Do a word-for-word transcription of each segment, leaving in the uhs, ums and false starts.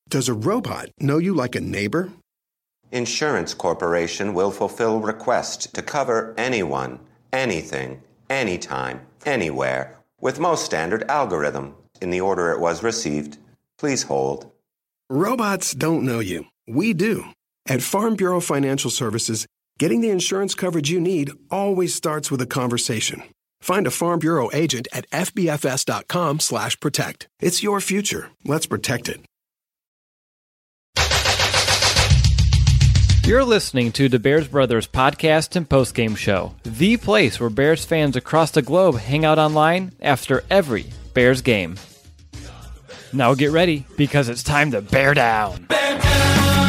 Does a robot know you like a neighbor? Insurance Corporation will fulfill requests to cover anyone, anything, anytime, anywhere, with most standard algorithm in the order it was received. Please hold. Robots don't know you. We do. At Farm Bureau Financial Services, getting the insurance coverage you need always starts with a conversation. Find a Farm Bureau agent at F B F S dot com slash protect. It's your future. Let's protect it. You're listening to the Bears Brothers podcast and postgame show, the place where Bears fans across the globe hang out online after every Bears game. Now get ready, because it's time to bear down. Bear down!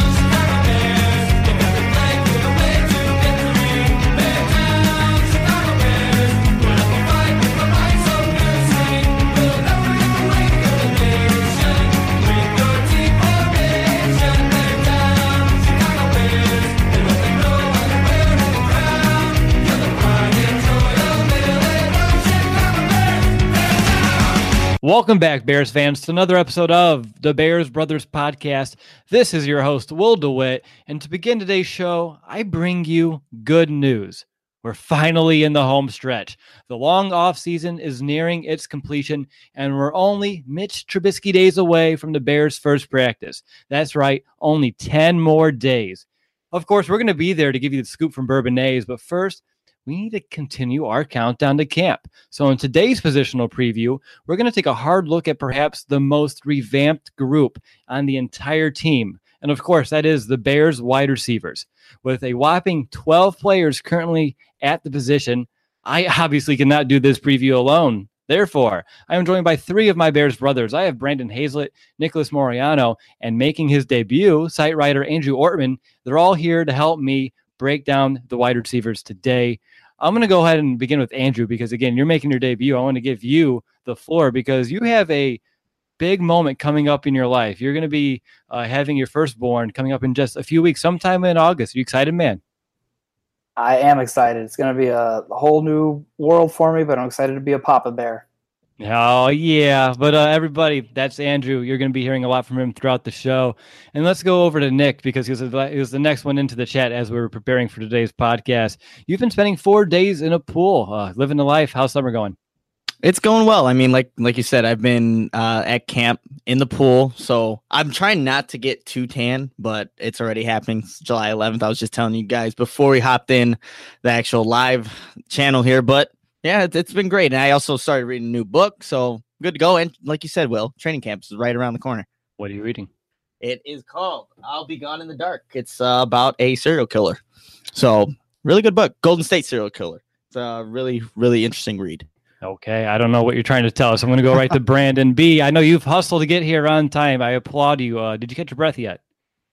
Welcome back, Bears fans, to another episode of the Bears Brothers podcast. This is your host, Will DeWitt, and to begin today's show, I bring you good news. We're finally in the home stretch. The long offseason is nearing its completion, and we're only Mitch Trubisky days away from the Bears' first practice. That's right, only ten more days. Of course, we're going to be there to give you the scoop from Bourbonnais, but first, we need to continue our countdown to camp. So in today's positional preview, we're going to take a hard look at perhaps the most revamped group on the entire team. And of course, that is the Bears wide receivers. With a whopping twelve players currently at the position, I obviously cannot do this preview alone. Therefore, I am joined by three of my Bears brothers. I have Brandon Hazlett, Nicholas Moriano, and making his debut, site writer Andrew Ortman. They're all here to help me break down the wide receivers today. I'm going to go ahead and begin with Andrew because, again, you're making your debut. I want to give you the floor because you have a big moment coming up in your life. You're going to be uh, having your firstborn coming up in just a few weeks, sometime in August. Are you excited, man? I am excited. It's going to be a whole new world for me, but I'm excited to be a Papa Bear. Oh, yeah. But uh, everybody, that's Andrew. You're going to be hearing a lot from him throughout the show. And let's go over to Nick because he was, he was the next one into the chat as we were preparing for today's podcast. You've been spending four days in a pool, uh, living the life. How's summer going? It's going well. I mean, like like you said, I've been uh, at camp in the pool. So I'm trying not to get too tan, but it's already happening. It's July eleventh. I was just telling you guys before we hopped in the actual live channel here. But yeah, it's, it's been great. And I also started reading a new book. So good to go. And like you said, Will, training camp is right around the corner. What are you reading? It is called I'll Be Gone in the Dark. It's uh, about a serial killer. So really good book. Golden State Serial Killer. It's a really, really interesting read. Okay, I don't know what you're trying to tell us. I'm going to go right to Brandon B. I know you've hustled to get here on time. I applaud you. Uh, did you catch your breath yet?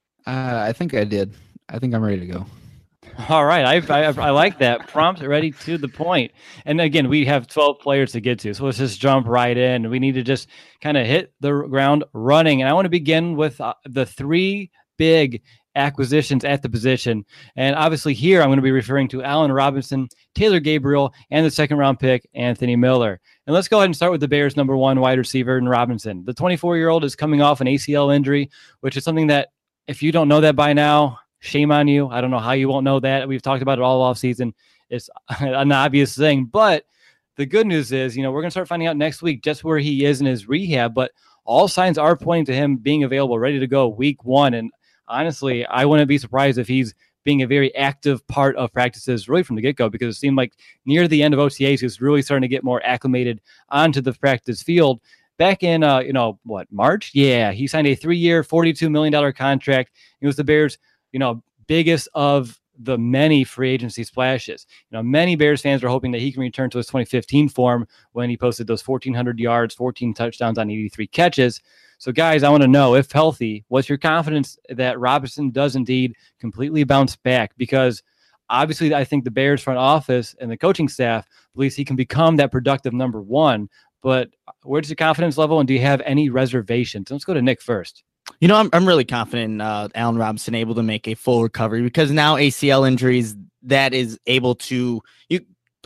Uh, I think I did. I think I'm ready to go. All right, I, I I like that. Prompt, ready, to the point. And again, we have twelve players to get to, so let's just jump right in. We need to just kind of hit the ground running. And I want to begin with uh, the three big acquisitions at the position. And obviously here I'm going to be referring to Allen Robinson, Taylor Gabriel, and the second round pick, Anthony Miller. And let's go ahead and start with the Bears' number one wide receiver in Robinson. The twenty-four-year-old is coming off an A C L injury, which is something that if you don't know that by now, shame on you. I don't know how you won't know that. We've talked about it all offseason. It's an obvious thing. But the good news is, you know, we're going to start finding out next week just where he is in his rehab. But all signs are pointing to him being available, ready to go week one. And honestly, I wouldn't be surprised if he's being a very active part of practices really from the get-go, because it seemed like near the end of O T As, he was really starting to get more acclimated onto the practice field. Back in, uh, you know, what, March? Yeah, he signed a three-year, forty-two million dollars contract. It was the Bears' you know, biggest of the many free agency splashes. You know, many Bears fans are hoping that he can return to his twenty fifteen form when he posted those fourteen hundred yards, fourteen touchdowns on eighty-three catches. So, guys, I want to know, if healthy, what's your confidence that Robinson does indeed completely bounce back? Because obviously I think the Bears front office and the coaching staff believes he can become that productive number one. But where's your confidence level, and do you have any reservations? Let's go to Nick first. You know, I'm I'm really confident uh, Allen Robinson able to make a full recovery, because now A C L injuries, that is able to you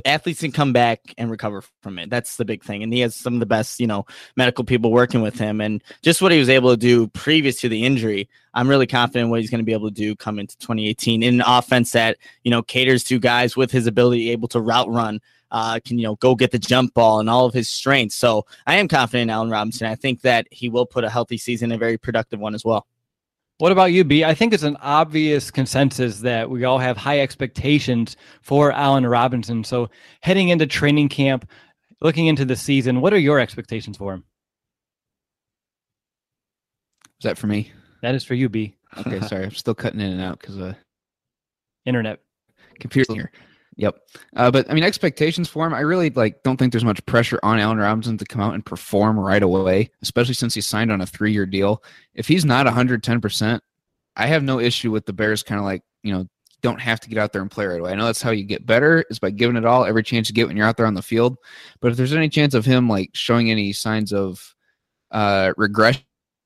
athletes can come back and recover from it. That's the big thing. And he has some of the best, you know, medical people working with him. And just what he was able to do previous to the injury, I'm really confident what he's going to be able to do come into twenty eighteen in an offense that, you know, caters to guys with his ability able to route run, uh, can, you know, go get the jump ball and all of his strengths. So I am confident in Allen Robinson. I think that he will put a healthy season, a very productive one as well. What about you, B? I think it's an obvious consensus that we all have high expectations for Allen Robinson. So heading into training camp, looking into the season, what are your expectations for him? Is that for me? That is for you, B. Okay, sorry. I'm still cutting in and out because uh, internet. Computer here. Yep. Uh, but I mean, expectations for him, I really like don't think there's much pressure on Allen Robinson to come out and perform right away, especially since he signed on a three-year deal. If he's not one hundred ten percent, I have no issue with the Bears kind of like, you know, don't have to get out there and play right away. I know that's how you get better, is by giving it all, every chance you get when you're out there on the field. But if there's any chance of him like showing any signs of uh, regression,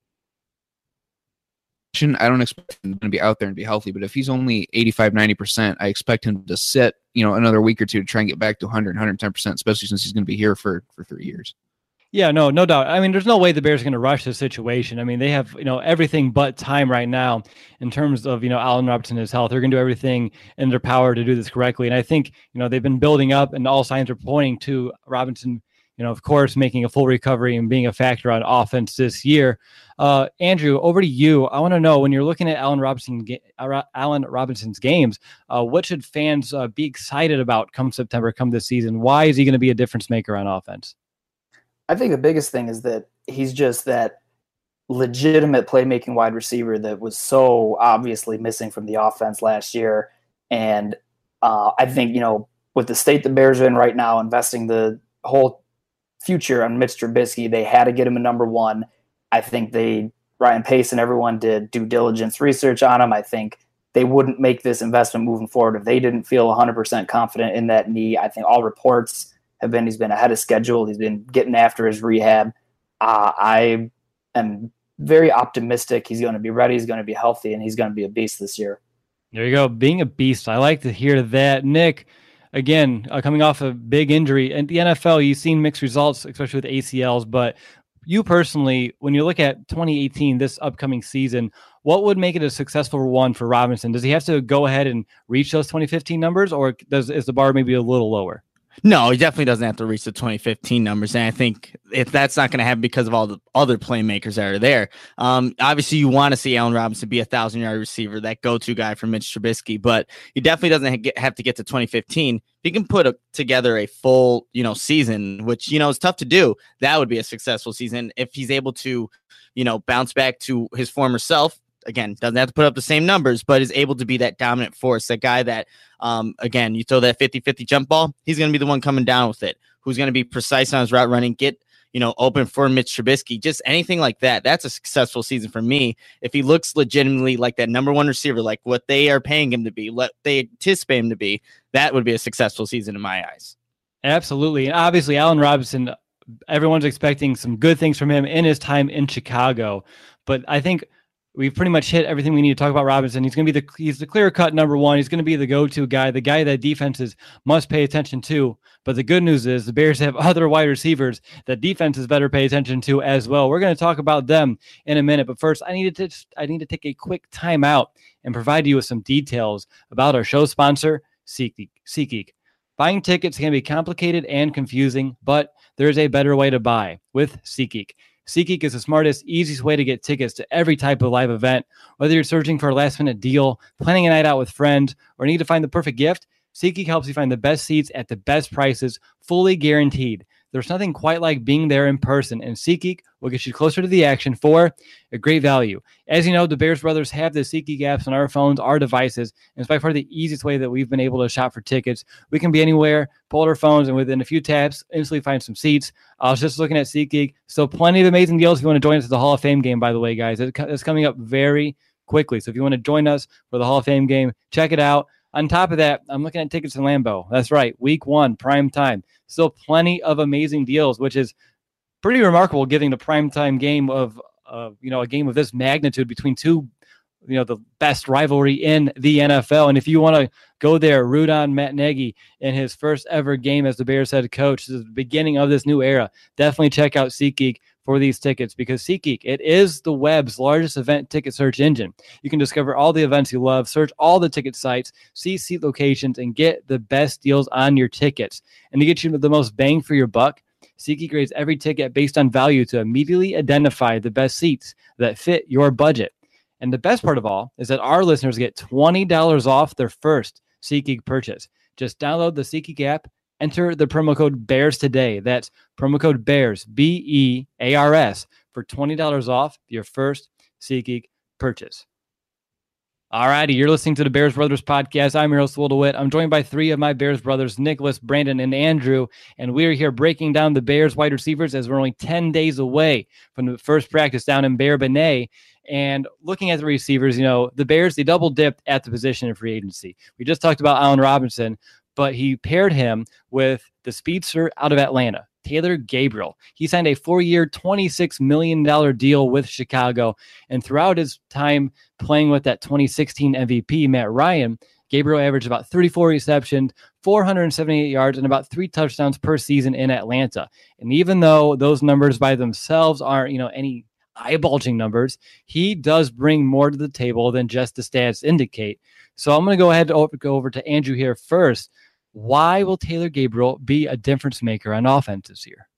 I don't expect him to be out there and be healthy. But if he's only eighty-five, ninety percent, I expect him to sit, you know, another week or two to try and get back to one hundred, one hundred ten percent, especially since he's going to be here for, for three years. Yeah, no, no doubt. I mean, there's no way the Bears are going to rush this situation. I mean, they have, you know, everything but time right now in terms of, you know, Allen Robinson and his health. They're going to do everything in their power to do this correctly. And I think, you know, they've been building up and all signs are pointing to Robinson, you know, of course, making a full recovery and being a factor on offense this year. Uh, Andrew, over to you. I want to know, when you're looking at Allen Robinson, Allen Robinson's games, uh, what should fans uh, be excited about come September, come this season? Why is he going to be a difference maker on offense? I think the biggest thing is that he's just that legitimate playmaking wide receiver that was so obviously missing from the offense last year. And uh, I think, you know, with the state the Bears are in right now, investing the whole future on Mitch Trubisky, they had to get him a number one. I think they, Ryan Pace and everyone did due diligence research on him. I think they wouldn't make this investment moving forward if they didn't feel one hundred percent confident in that knee. I think all reports have been he's been ahead of schedule. He's been getting after his rehab. Uh, I am very optimistic he's going to be ready, he's going to be healthy, and he's going to be a beast this year. There you go, being a beast. I like to hear that. Nick, again, uh, coming off a big injury. In the N F L, you've seen mixed results, especially with A C Ls, but you personally, when you look at twenty eighteen, this upcoming season, what would make it a successful one for Robinson? Does he have to go ahead and reach those twenty fifteen numbers, or does is the bar maybe a little lower? No, he definitely doesn't have to reach the twenty fifteen numbers. And I think if that's not going to happen because of all the other playmakers that are there, um, obviously you want to see Allen Robinson be a thousand yard receiver, that go-to guy for Mitch Trubisky, but he definitely doesn't have to get to twenty fifteen. If he can put a, together a full, you know, season, which, you know, is tough to do, that would be a successful season. If he's able to, you know, bounce back to his former self, again, doesn't have to put up the same numbers, but is able to be that dominant force, that guy that, um, again, you throw that fifty-fifty jump ball, he's going to be the one coming down with it, who's going to be precise on his route running, get, you know, open for Mitch Trubisky, just anything like that. That's a successful season for me. If he looks legitimately like that number one receiver, like what they are paying him to be, what they anticipate him to be, that would be a successful season in my eyes. Absolutely. And obviously, Allen Robinson, everyone's expecting some good things from him in his time in Chicago, but I think we've pretty much hit everything we need to talk about Robinson. He's going to be the he's the clear-cut number one. He's going to be the go-to guy, the guy that defenses must pay attention to. But the good news is the Bears have other wide receivers that defenses better pay attention to as well. We're going to talk about them in a minute. But first, I need to I need to take a quick time out and provide you with some details about our show sponsor, SeatGeek. SeatGeek. Buying tickets can be complicated and confusing, but there's a better way to buy with SeatGeek. SeatGeek is the smartest, easiest way to get tickets to every type of live event. Whether you're searching for a last-minute deal, planning a night out with friends, or need to find the perfect gift, SeatGeek helps you find the best seats at the best prices, fully guaranteed. There's nothing quite like being there in person, and SeatGeek will get you closer to the action for a great value. As you know, the Bears brothers have the SeatGeek apps on our phones, our devices, and it's by far the easiest way that we've been able to shop for tickets. We can be anywhere, pull out our phones, and within a few taps, instantly find some seats. I was just looking at SeatGeek. Still plenty of amazing deals if you want to join us at the Hall of Fame game, by the way, guys. It's coming up very quickly. So if you want to join us for the Hall of Fame game, check it out. On top of that, I'm looking at tickets in Lambeau. That's right, week one, prime time. Still plenty of amazing deals, which is pretty remarkable, given the prime time game of, uh, you know, a game of this magnitude between two, you know, the best rivalry in the N F L. And if you want to Go there, root on Matt Nagy in his first ever game as the Bears head coach. This is the beginning of this new era. Definitely check out SeatGeek for these tickets, because SeatGeek, it is the web's largest event ticket search engine. You can discover all the events you love, search all the ticket sites, see seat locations, and get the best deals on your tickets. And to get you the most bang for your buck, SeatGeek grades every ticket based on value to immediately identify the best seats that fit your budget. And the best part of all is that our listeners get twenty dollars off their first SeatGeek purchase. Just download the SeatGeek app, enter the promo code BEARS today. That's promo code BEARS, B E A R S, for twenty dollars off your first SeatGeek purchase. All righty, you're listening to the Bears Brothers podcast. I'm your host, Will DeWitt. I'm joined by three of my Bears brothers, Nicholas, Brandon, and Andrew, and we are here breaking down the Bears wide receivers as we're only ten days away from the first practice down in Bear-Benet. And looking at the receivers, you know, the Bears, they double dipped at the position in free agency. We just talked about Allen Robinson, but he paired him with the speedster out of Atlanta, Taylor Gabriel. He signed a four-year, twenty-six million dollars deal with Chicago. And throughout his time playing with that twenty sixteen M V P, Matt Ryan, Gabriel averaged about thirty-four receptions, four hundred seventy-eight yards, and about three touchdowns per season in Atlanta. And even though those numbers by themselves aren't, you know, any eye-bulging numbers, he does bring more to the table than just the stats indicate. So I'm going to go ahead and go over to Andrew here first. Why will Taylor Gabriel be a difference maker on offense this year?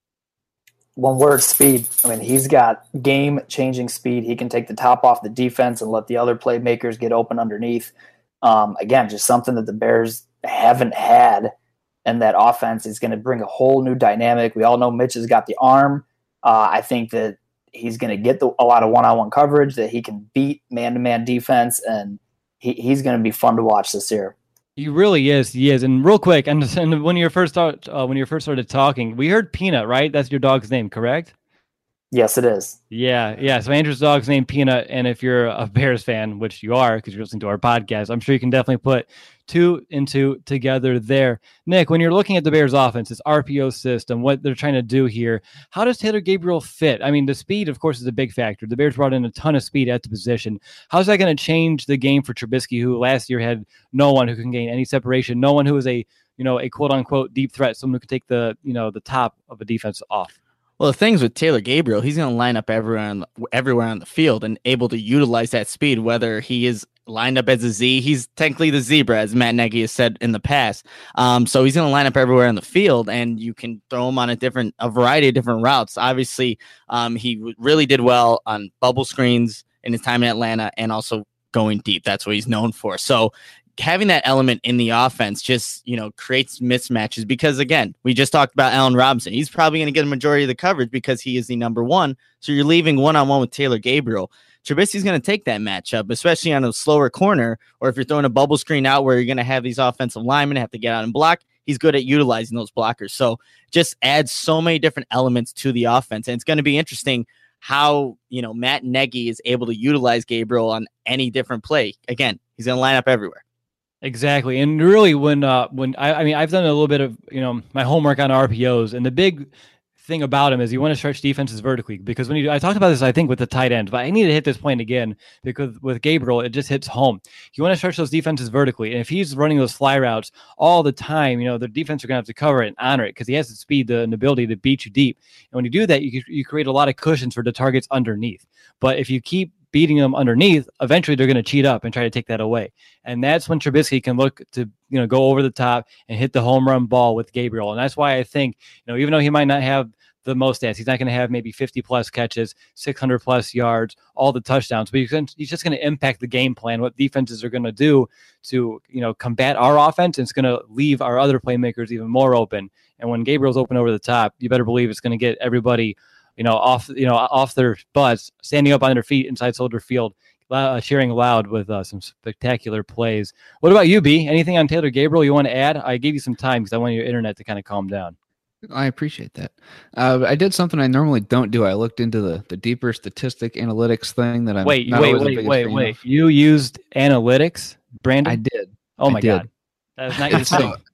One word, speed. I mean, he's got game-changing speed. He can take the top off the defense and let the other playmakers get open underneath. Um, again, just something that the Bears haven't had, and that offense is going to bring a whole new dynamic. We all know Mitch has got the arm. Uh, I think that he's going to get the, a lot of one-on-one coverage, that he can beat man-to-man defense, and he, he's going to be fun to watch this year. He really is. He is. And real quick, and, and when you first start, uh, when you first started talking, we heard Peanut, right? That's your dog's name, correct? Yes, it is. Yeah, yeah. So Andrew's dog's name Peanut, and if you're a Bears fan, which you are because you're listening to our podcast, I'm sure you can definitely put two and two together there. Nick, when you're looking at the Bears offense, this R P O system, what they're trying to do here, how does Taylor Gabriel fit? I mean, the speed, of course, is a big factor. The Bears brought in a ton of speed at the position. How's that going to change the game for Trubisky, who last year had no one who can gain any separation, no one who is a, you know, a quote unquote deep threat, someone who can take the, you know, the top of a defense off? Well, the things with Taylor Gabriel, he's going to line up everywhere on, everywhere on the field and able to utilize that speed, whether he is lined up as a Z. He's technically the zebra, as Matt Nagy has said in the past. Um, so he's going to line up everywhere on the field, and you can throw him on a different, a variety of different routes. Obviously, um, he w- really did well on bubble screens in his time in Atlanta, and also going deep. That's what he's known for. So having that element in the offense just, you know, creates mismatches, because again, we just talked about Allen Robinson. He's probably going to get a majority of the coverage because he is the number one. So you're leaving one-on-one with Taylor Gabriel. Trubisky's going to take that matchup, especially on a slower corner, or if you're throwing a bubble screen out where you're going to have these offensive linemen have to get out and block. He's good at utilizing those blockers. So just adds so many different elements to the offense. And it's going to be interesting how, you know, Matt Nagy is able to utilize Gabriel on any different play. Again, he's going to line up everywhere. Exactly. And really when, uh, when I, I mean, I've done a little bit of, you know, my homework on R P Os, and the big thing about him is you want to stretch defenses vertically, because when you do, I talked about this, I think, with the tight end, but I need to hit this point again because with Gabriel, it just hits home. You want to stretch those defenses vertically. And if he's running those fly routes all the time, you know, the defense are going to have to cover it and honor it because he has the speed, the, and the ability to beat you deep. And when you do that, you, you create a lot of cushions for the targets underneath. But if you keep beating them underneath, eventually they're going to cheat up and try to take that away. And that's when Trubisky can look to, you know, go over the top and hit the home run ball with Gabriel. And that's why I think, you know, even though he might not have the most stats, he's not going to have maybe fifty plus catches, six hundred plus yards, all the touchdowns, but he's just going to impact the game plan, what defenses are going to do to, you know, combat our offense. And it's going to leave our other playmakers even more open. And when Gabriel's open over the top, you better believe it's going to get everybody, you know, off, you know, off their butts, standing up on their feet inside Soldier Field, uh, cheering loud with uh, some spectacular plays. What about you, B? Anything on Taylor Gabriel you want to add? I gave you some time because I want your internet to kind of calm down. I appreciate that. Uh, I did something I normally don't do. I looked into the, the deeper statistic analytics thing that I'm wait, not wait, always the wait, biggest wait, fan wait. of. You used analytics, Brandon? I did. Oh my I did. God. That's not your So, thing.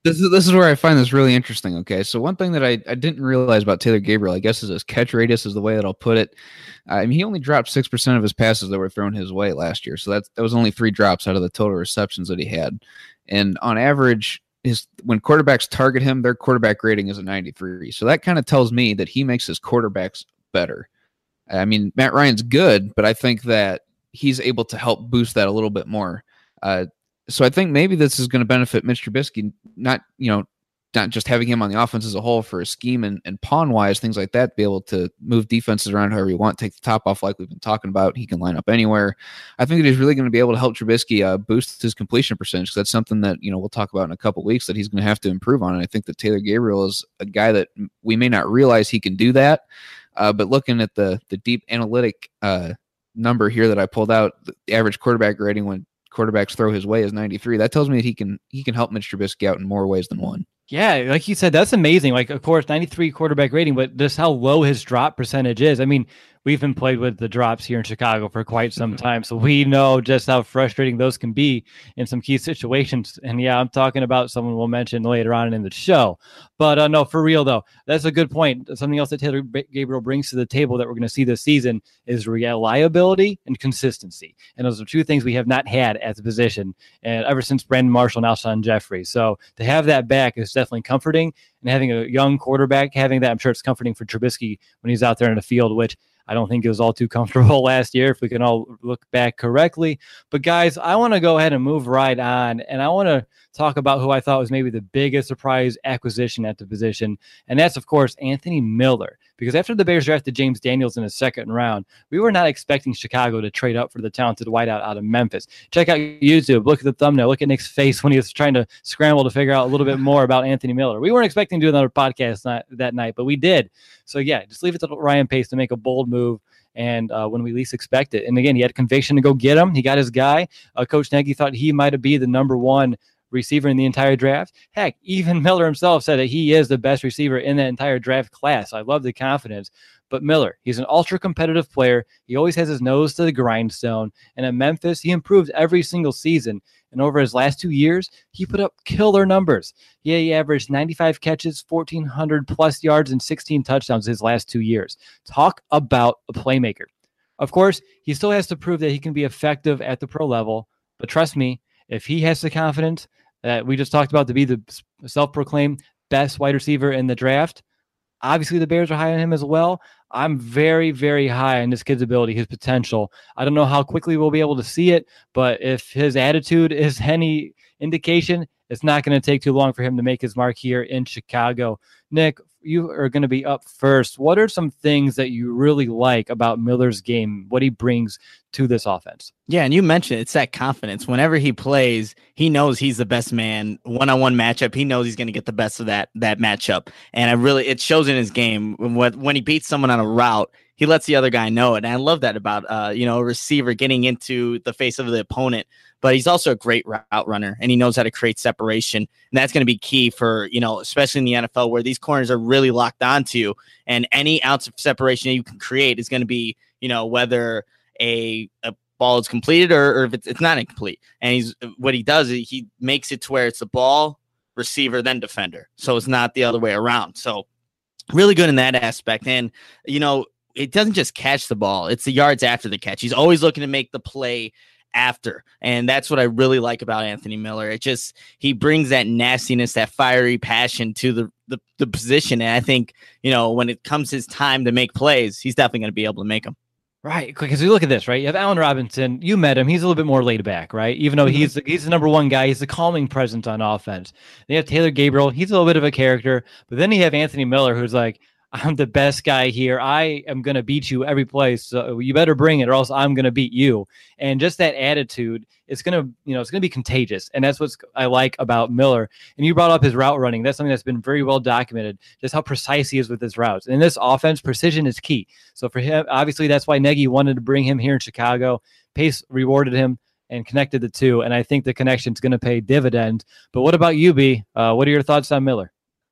This is this is where I find this really interesting. Okay, so one thing that I, I didn't realize about Taylor Gabriel, I guess, is his catch radius is the way that I'll put it. Uh, I mean, he only dropped six percent of his passes that were thrown his way last year, so that that was only three drops out of the total receptions that he had. And on average, his when quarterbacks target him, their quarterback rating is a ninety-three. So that kind of tells me that he makes his quarterbacks better. I mean, Matt Ryan's good, but I think that he's able to help boost that a little bit more. Uh, So I think maybe this is going to benefit Mitch Trubisky, not, you know, not just having him on the offense as a whole for a scheme and, and pawn wise, things like that, be able to move defenses around however you want, take the top off like we've been talking about. He can line up anywhere. I think that he's really going to be able to help Trubisky uh, boost his completion percentage. That's something that, you know, we'll talk about in a couple of weeks that he's going to have to improve on. And I think that Taylor Gabriel is a guy that we may not realize he can do that. Uh, but looking at the, the deep analytic uh, number here that I pulled out, the average quarterback rating when quarterbacks throw his way is ninety-three. That tells me that he can he can help Mitch Trubisky out in more ways than one. Yeah, like you said, that's amazing. Like, of course, ninety-three quarterback rating, but just how low his drop percentage is. I mean, we've been played with the drops here in Chicago for quite some time, so we know just how frustrating those can be in some key situations. And yeah, I'm talking about someone we'll mention later on in the show. But uh, no, for real though, that's a good point. Something else that Taylor Gabriel brings to the table that we're going to see this season is reliability and consistency. And those are two things we have not had at the position, and ever since Brandon Marshall and Alshon Jeffrey. So to have that back is definitely comforting, and having a young quarterback, having that, I'm sure it's comforting for Trubisky when he's out there in the field, which I don't think it was all too comfortable last year, if we can all look back correctly. But guys, I want to go ahead and move right on, and I want to talk about who I thought was maybe the biggest surprise acquisition at the position, and that's, of course, Anthony Miller. Because after the Bears drafted James Daniels in the second round, we were not expecting Chicago to trade up for the talented wideout out of Memphis. Check out YouTube. Look at the thumbnail. Look at Nick's face when he was trying to scramble to figure out a little bit more about Anthony Miller. We weren't expecting to do another podcast that, that night, but we did. So, yeah, just leave it to Ryan Pace to make a bold move and uh, when we least expect it. And, again, he had conviction to go get him. He got his guy. Uh, Coach Nagy thought he might be the number one receiver in the entire draft. Heck, even Miller himself said that he is the best receiver in that entire draft class. I love the confidence. But Miller, he's an ultra competitive player. He always has his nose to the grindstone. And at Memphis, he improved every single season. And over his last two years, he put up killer numbers. Yeah, he averaged ninety-five catches, fourteen hundred plus yards, and sixteen touchdowns his last two years. Talk about a playmaker. Of course, he still has to prove that he can be effective at the pro level. But trust me, if he has the confidence that we just talked about to be the self-proclaimed best wide receiver in the draft, obviously the Bears are high on him as well. I'm very, very high on this kid's ability, his potential. I don't know how quickly we'll be able to see it, but if his attitude is any indication, it's not going to take too long for him to make his mark here in Chicago. Nick, you are going to be up first. What are some things that you really like about Miller's game, what he brings to this offense? Yeah, and you mentioned it's that confidence. Whenever he plays, he knows he's the best man. One-on-one matchup, he knows he's going to get the best of that that matchup. And I really, it shows in his game. When, when he beats someone on a route, he lets the other guy know it. And I love that about uh, you know, a receiver getting into the face of the opponent. But he's also a great route runner, and he knows how to create separation. And that's going to be key for, you know, especially in the N F L where these corners are really locked onto you. And any ounce of separation that you can create is going to be, you know, whether a, a ball is completed or, or if it's, it's not incomplete. And he's what he does is he makes it to where it's the ball, receiver, then defender. So it's not the other way around. So really good in that aspect. And, you know, it doesn't just catch the ball. It's the yards after the catch. He's always looking to make the play after. And that's what I really like about Anthony Miller. It just, he brings that nastiness, that fiery passion to the, the, the position. And I think, you know, when it comes his time to make plays, he's definitely going to be able to make them. Right, because you look at this, right? You have Allen Robinson. You met him. He's a little bit more laid back, right? Even though mm-hmm. he's the, he's the number one guy, he's the calming presence on offense. They have Taylor Gabriel. He's a little bit of a character. But then you have Anthony Miller, who's like, I'm the best guy here. I am going to beat you every place. So you better bring it or else I'm going to beat you. And just that attitude, it's going to, you know, it's going to be contagious. And that's what I like about Miller. And you brought up his route running. That's something that's been very well documented, just how precise he is with his routes. And in this offense, precision is key. So for him, obviously that's why Nagy wanted to bring him here in Chicago. Pace rewarded him and connected the two. And I think the connection is going to pay dividends. But what about you, B? Uh, what are your thoughts on Miller?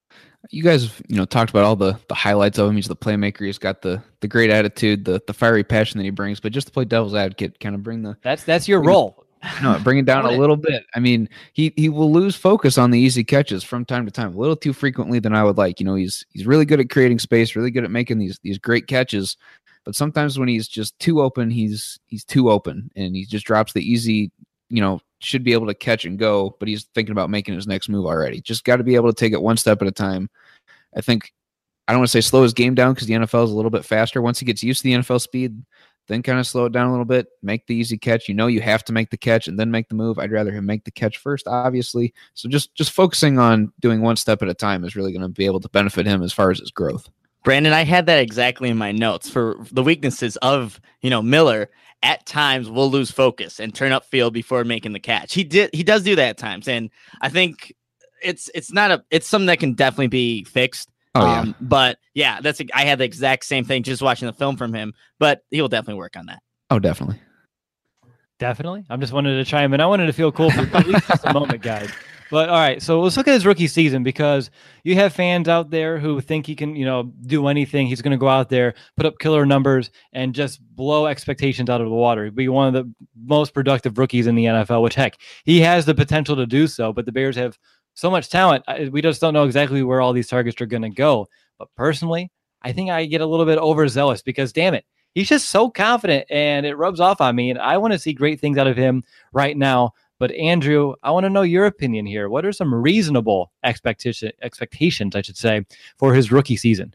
You guys, you know, talked about all the, the highlights of him. He's the playmaker. He's got the the great attitude, the the fiery passion that he brings. But just to play devil's advocate, kind of bring the that's that's your role. No, bring it down a little bit. I mean, he he will lose focus on the easy catches from time to time, a little too frequently than I would like. You know, he's he's really good at creating space, really good at making these these great catches. But sometimes when he's just too open, he's he's too open, and he just drops the easy, you know, should be able to catch and go, but he's thinking about making his next move already. Just got to be able to take it one step at a time. I think I don't want to say slow his game down because the N F L is a little bit faster. Once he gets used to the N F L speed, then kind of slow it down a little bit, make the easy catch. You know you have to make the catch and then make the move. I'd rather him make the catch first, obviously. So just just focusing on doing one step at a time is really going to be able to benefit him as far as his growth. Brandon, I had that exactly in my notes for the weaknesses of, you know, Miller. At times will lose focus and turn upfield before making the catch. He did. He does do that at times. And I think it's, it's not a, it's something that can definitely be fixed. Oh, yeah. Um, but yeah, that's, a, I had the exact same thing just watching the film from him, but he will definitely work on that. Oh, definitely. Definitely. I'm just wanted to chime in. I wanted to feel cool for at least just a moment, guys. But all right, so let's look at his rookie season, because you have fans out there who think he can, you know, do anything. He's going to go out there, put up killer numbers, and just blow expectations out of the water. He'd be one of the most productive rookies in the N F L, which, heck, he has the potential to do so. But the Bears have so much talent. We just don't know exactly where all these targets are going to go. But personally, I think I get a little bit overzealous because, damn it, he's just so confident, and it rubs off on me. And I want to see great things out of him right now. But Andrew, I want to know your opinion here. What are some reasonable expectation expectations, I should say, for his rookie season?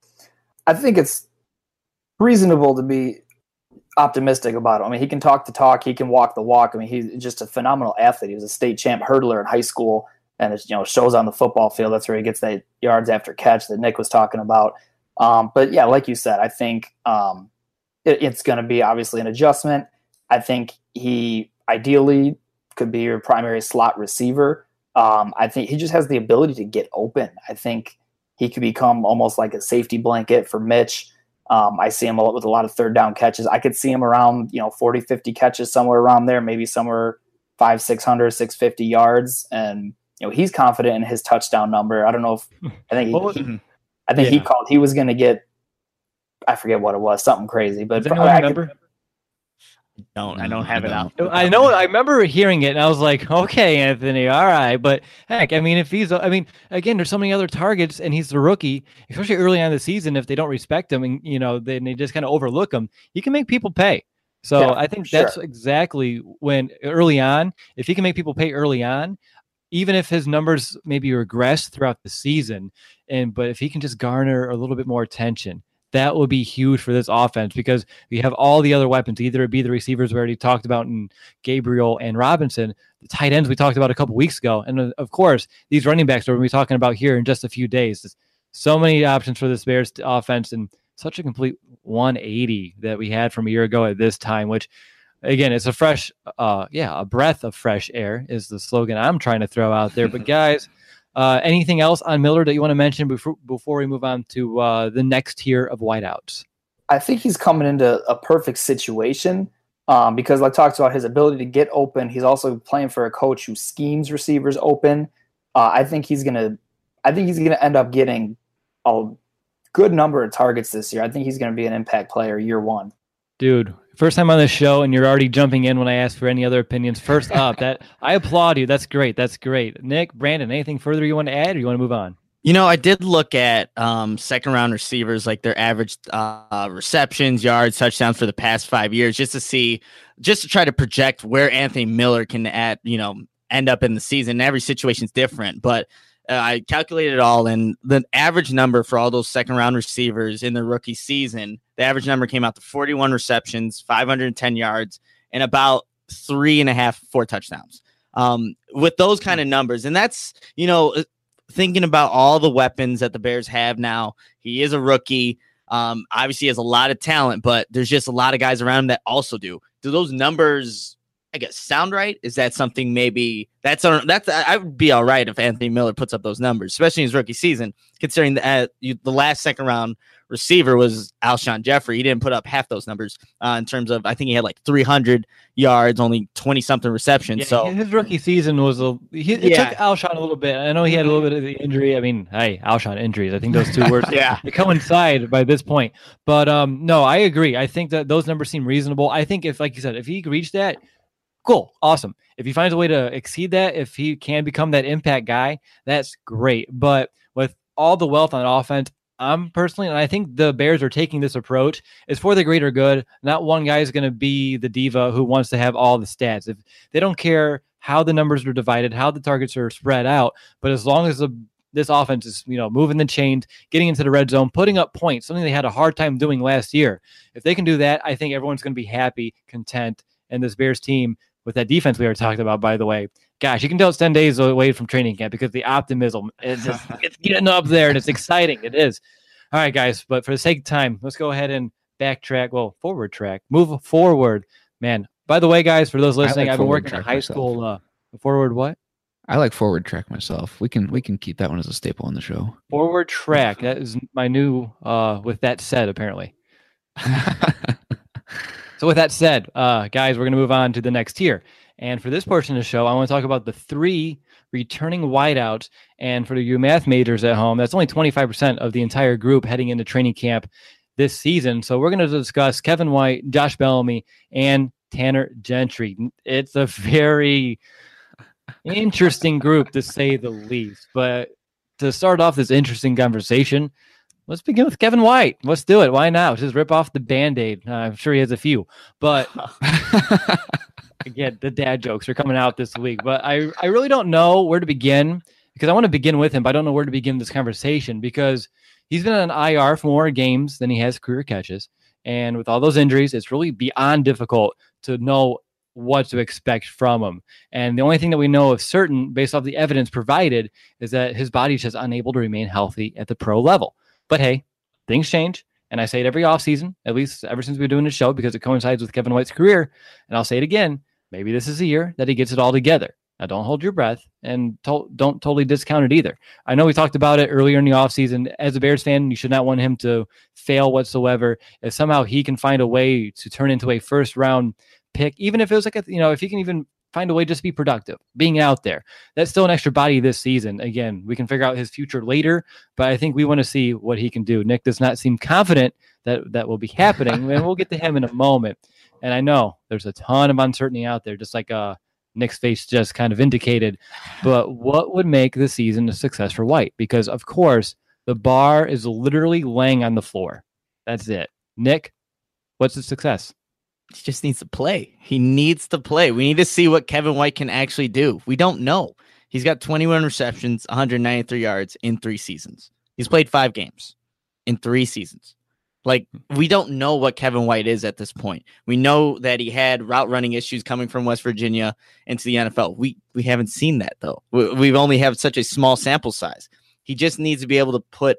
I think it's reasonable to be optimistic about him. I mean, he can talk the talk, he can walk the walk. I mean, he's just a phenomenal athlete. He was a state champ hurdler in high school, and it, you know, shows on the football field. That's where he gets that yards after catch that Nick was talking about. Um, but yeah, like you said, I think um, it, it's going to be obviously an adjustment. I think he ideally could be your primary slot receiver. Um, I think he just has the ability to get open. I think he could become almost like a safety blanket for Mitch. Um, I see him a lot with a lot of third down catches. I could see him around, you know, forty, fifty catches, somewhere around there, maybe somewhere five, six hundred, six fifty yards. And, you know, he's confident in his touchdown number. I don't know if, I think, he, he, I think yeah. he called, he was going to get, I forget what it was, something crazy, but does anyone remember? Could, Don't I don't have it out. I know. I remember hearing it, and I was like, "Okay, Anthony, all right." But heck, I mean, if he's, I mean, again, there's so many other targets, and he's the rookie, especially early on in the season. If they don't respect him, and you know, then they just kind of overlook him, he can make people pay. So yeah, I think that's sure. exactly when early on, if he can make people pay early on, even if his numbers maybe regress throughout the season, and but if he can just garner a little bit more attention, that will be huge for this offense, because we have all the other weapons. Either it be the receivers we already talked about in Gabriel and Robinson, the tight ends we talked about a couple weeks ago, and of course, these running backs we're going to be talking about here in just a few days. There's so many options for this Bears offense, and such a complete one eighty that we had from a year ago at this time, which, again, it's a fresh, uh, yeah, a breath of fresh air is the slogan I'm trying to throw out there. But guys, Uh, anything else on Miller that you want to mention before before we move on to uh, the next tier of wideouts? I think he's coming into a perfect situation um, because, like, talks about his ability to get open. He's also playing for a coach who schemes receivers open. Uh, I think he's gonna. I think he's gonna end up getting a good number of targets this year. I think he's gonna be an impact player year one. Dude, first time on this show, and you're already jumping in when I ask for any other opinions. First up, that I applaud you. That's great. That's great. Nick, Brandon, anything further you want to add, or you want to move on? You know, I did look at um, second round receivers, like their average uh, receptions, yards, touchdowns for the past five years, just to see, just to try to project where Anthony Miller can add, you know, end up in the season. Every situation's different, but uh, I calculated it all, and the average number for all those second round receivers in the rookie season, the average number came out to forty-one receptions, five hundred ten yards, and about three and a half, four touchdowns. Um, with those kind of numbers, and that's, you know, thinking about all the weapons that the Bears have now. He is a rookie. Um, obviously, he has a lot of talent, but there's just a lot of guys around him that also do. Do those numbers, I guess, sound right? Is that something maybe that's that's I would be all right if Anthony Miller puts up those numbers, especially in his rookie season, considering the uh, you, the last second round receiver was Alshon Jeffrey. He didn't put up half those numbers uh, in terms of, I think he had like three hundred yards, only twenty something receptions. Yeah, so his rookie season was a he, it yeah. took Alshon a little bit. I know he had a little bit of the injury. I mean, hey, Alshon injuries. I think those two words yeah. they coincide by this point. But um, no, I agree. I think that those numbers seem reasonable. I think if, like you said, if he reached that, cool, awesome. If he finds a way to exceed that, if he can become that impact guy, that's great. But with all the wealth on offense, I'm personally, and I think the Bears are taking this approach, is for the greater good. Not one guy is going to be the diva who wants to have all the stats. If they don't care how the numbers are divided, how the targets are spread out, but as long as the this offense is, you know, moving the chains, getting into the red zone, putting up points, something they had a hard time doing last year. If they can do that, I think everyone's going to be happy, content, and this Bears team with that defense we were talking about, by the way, gosh, you can tell it's ten days away from training camp because the optimism is just, it's getting up there and it's exciting. It is. All right, guys, but for the sake of time, let's go ahead and backtrack. Well, forward track, move forward, man. By the way, guys, for those listening, like I've been working track at high myself. school. Uh, forward what? I like forward track myself. We can we can keep that one as a staple on the show. Forward track. That is my new. Uh, with that said, apparently. So with that said, uh, guys, we're going to move on to the next tier. And for this portion of the show, I want to talk about the three returning wideouts. And for you math majors at home, that's only twenty-five percent of the entire group heading into training camp this season. So we're going to discuss Kevin White, Josh Bellamy, and Tanner Gentry. It's a very interesting group, to say the least. But to start off this interesting conversation, let's begin with Kevin White. Let's do it. Why not? Just rip off the Band-Aid. Uh, I'm sure he has a few. But again, the dad jokes are coming out this week. But I, I really don't know where to begin, because I want to begin with him, but I don't know where to begin this conversation, because he's been on I R for more games than he has career catches. And with all those injuries, it's really beyond difficult to know what to expect from him. And the only thing that we know of certain, based off the evidence provided, is that his body's just unable to remain healthy at the pro level. But hey, things change. And I say it every offseason, at least ever since we've been doing this show, because it coincides with Kevin White's career. And I'll say it again, maybe this is the year that he gets it all together. Now, don't hold your breath, and to- don't totally discount it either. I know we talked about it earlier in the offseason. As a Bears fan, you should not want him to fail whatsoever. If somehow he can find a way to turn into a first-round pick, even if it was like, a, you know, if he can even find a way just to be productive, being out there, that's still an extra body this season. Again, we can figure out his future later, but I think we want to see what he can do. Nick does not seem confident that that will be happening, and we'll get to him in a moment. And I know there's a ton of uncertainty out there, just like uh, Nick's face just kind of indicated. But what would make the season a success for White? Because, of course, the bar is literally laying on the floor. That's it. Nick, what's the success? He just needs to play. He needs to play. We need to see what Kevin White can actually do. We don't know. He's got twenty-one receptions, one hundred ninety-three yards in three seasons. He's played five games in three seasons. Like, we don't know what Kevin White is at this point. We know that he had route running issues coming from West Virginia into the N F L. We we haven't seen that, though. We, we've only have such a small sample size. He just needs to be able to put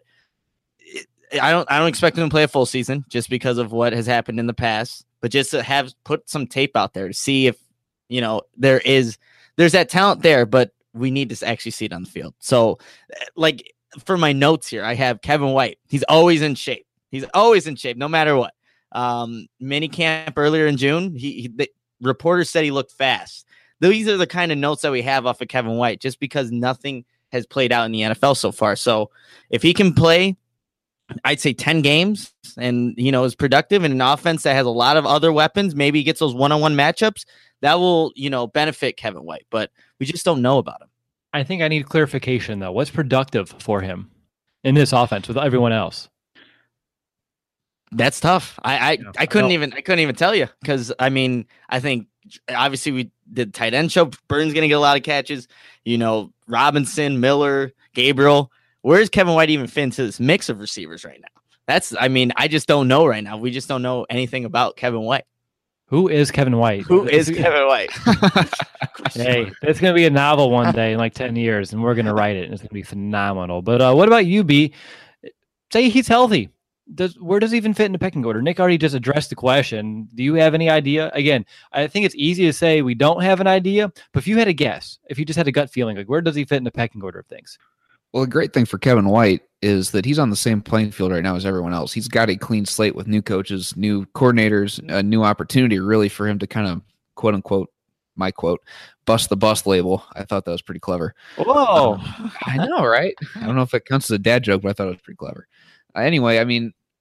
I don't I don't expect him to play a full season just because of what has happened in the past, but just to have put some tape out there to see if, you know, there is there's that talent there, but we need to actually see it on the field. So, like, for my notes here, I have Kevin White. He's always in shape. He's always in shape, no matter what. Um, mini camp earlier in June, he, he the reporters said he looked fast. These are the kind of notes that we have off of Kevin White, just because nothing has played out in the N F L so far. So if he can play, I'd say ten games, and, you know, is productive in an offense that has a lot of other weapons, maybe he gets those one-on-one matchups, that will, you know, benefit Kevin White. But we just don't know about him. I think I need clarification, though. What's productive for him in this offense with everyone else? That's tough. I I, Yeah, I couldn't I even I couldn't even tell you, because I mean I think obviously we did tight end show. Burns gonna get a lot of catches. You know, Robinson, Miller, Gabriel. Where's Kevin White even fit into this mix of receivers right now? That's I mean I just don't know right now. We just don't know anything about Kevin White. Who is Kevin White? Who is Kevin White? Hey, it's going to be a novel one day in like ten years, and we're going to write it, and it's going to be phenomenal. But uh, what about you, B? Say he's healthy. Does where does he even fit in the pecking order? Nick already just addressed the question. Do you have any idea? Again, I think it's easy to say we don't have an idea, but if you had a guess, if you just had a gut feeling, like, where does he fit in the pecking order of things? Well, the great thing for Kevin White is that he's on the same playing field right now as everyone else. He's got a clean slate with new coaches, new coordinators, a new opportunity really for him to kind of, quote unquote, my quote, bust the bust label. I thought that was pretty clever. Whoa. Um, I know, right? I don't know if it counts as a dad joke, but I thought it was pretty clever. Uh, anyway, I mean,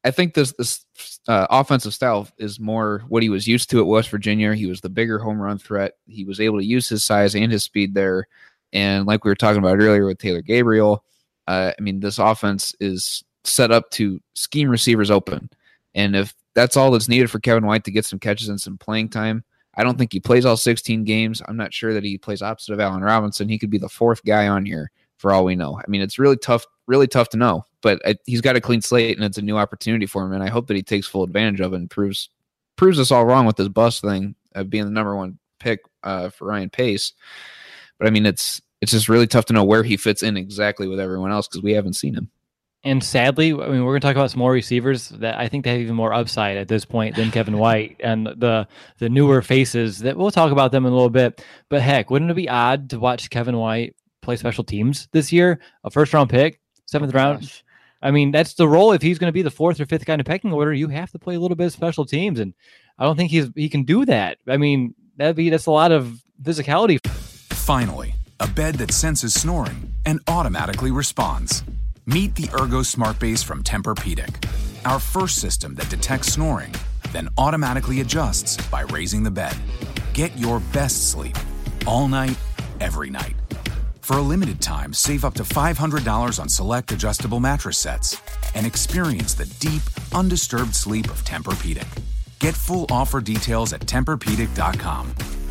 I think this this uh, offensive style is more what he was used to at West Virginia. He was the bigger home run threat. He was able to use his size and his speed there. And like we were talking about earlier with Taylor Gabriel, uh, I mean, this offense is set up to scheme receivers open. And if that's all that's needed for Kevin White to get some catches and some playing time, I don't think he plays all sixteen games. I'm not sure that he plays opposite of Allen Robinson. He could be the fourth guy on here for all we know. I mean, it's really tough, really tough to know. But I, he's got a clean slate, and it's a new opportunity for him. And I hope that he takes full advantage of it and proves proves us all wrong with this bust thing of being the number one pick uh, for Ryan Pace. But I mean, it's it's just really tough to know where he fits in exactly with everyone else because we haven't seen him. And sadly, I mean, we're going to talk about some more receivers that I think they have even more upside at this point than Kevin White and the the newer faces that we'll talk about them in a little bit. But heck, wouldn't it be odd to watch Kevin White play special teams this year? A first round pick, seventh oh, round. Gosh. I mean, that's the role. If he's going to be the fourth or fifth guy in the pecking order, you have to play a little bit of special teams, and I don't think he's he can do that. I mean, that'd be that's a lot of physicality. Finally, a bed that senses snoring and automatically responds. Meet the Ergo Smart Base from Tempur-Pedic, our first system that detects snoring, then automatically adjusts by raising the bed. Get your best sleep all night, every night. For a limited time, save up to five hundred dollars on select adjustable mattress sets and experience the deep, undisturbed sleep of Tempur-Pedic. Get full offer details at Tempur Pedic dot com.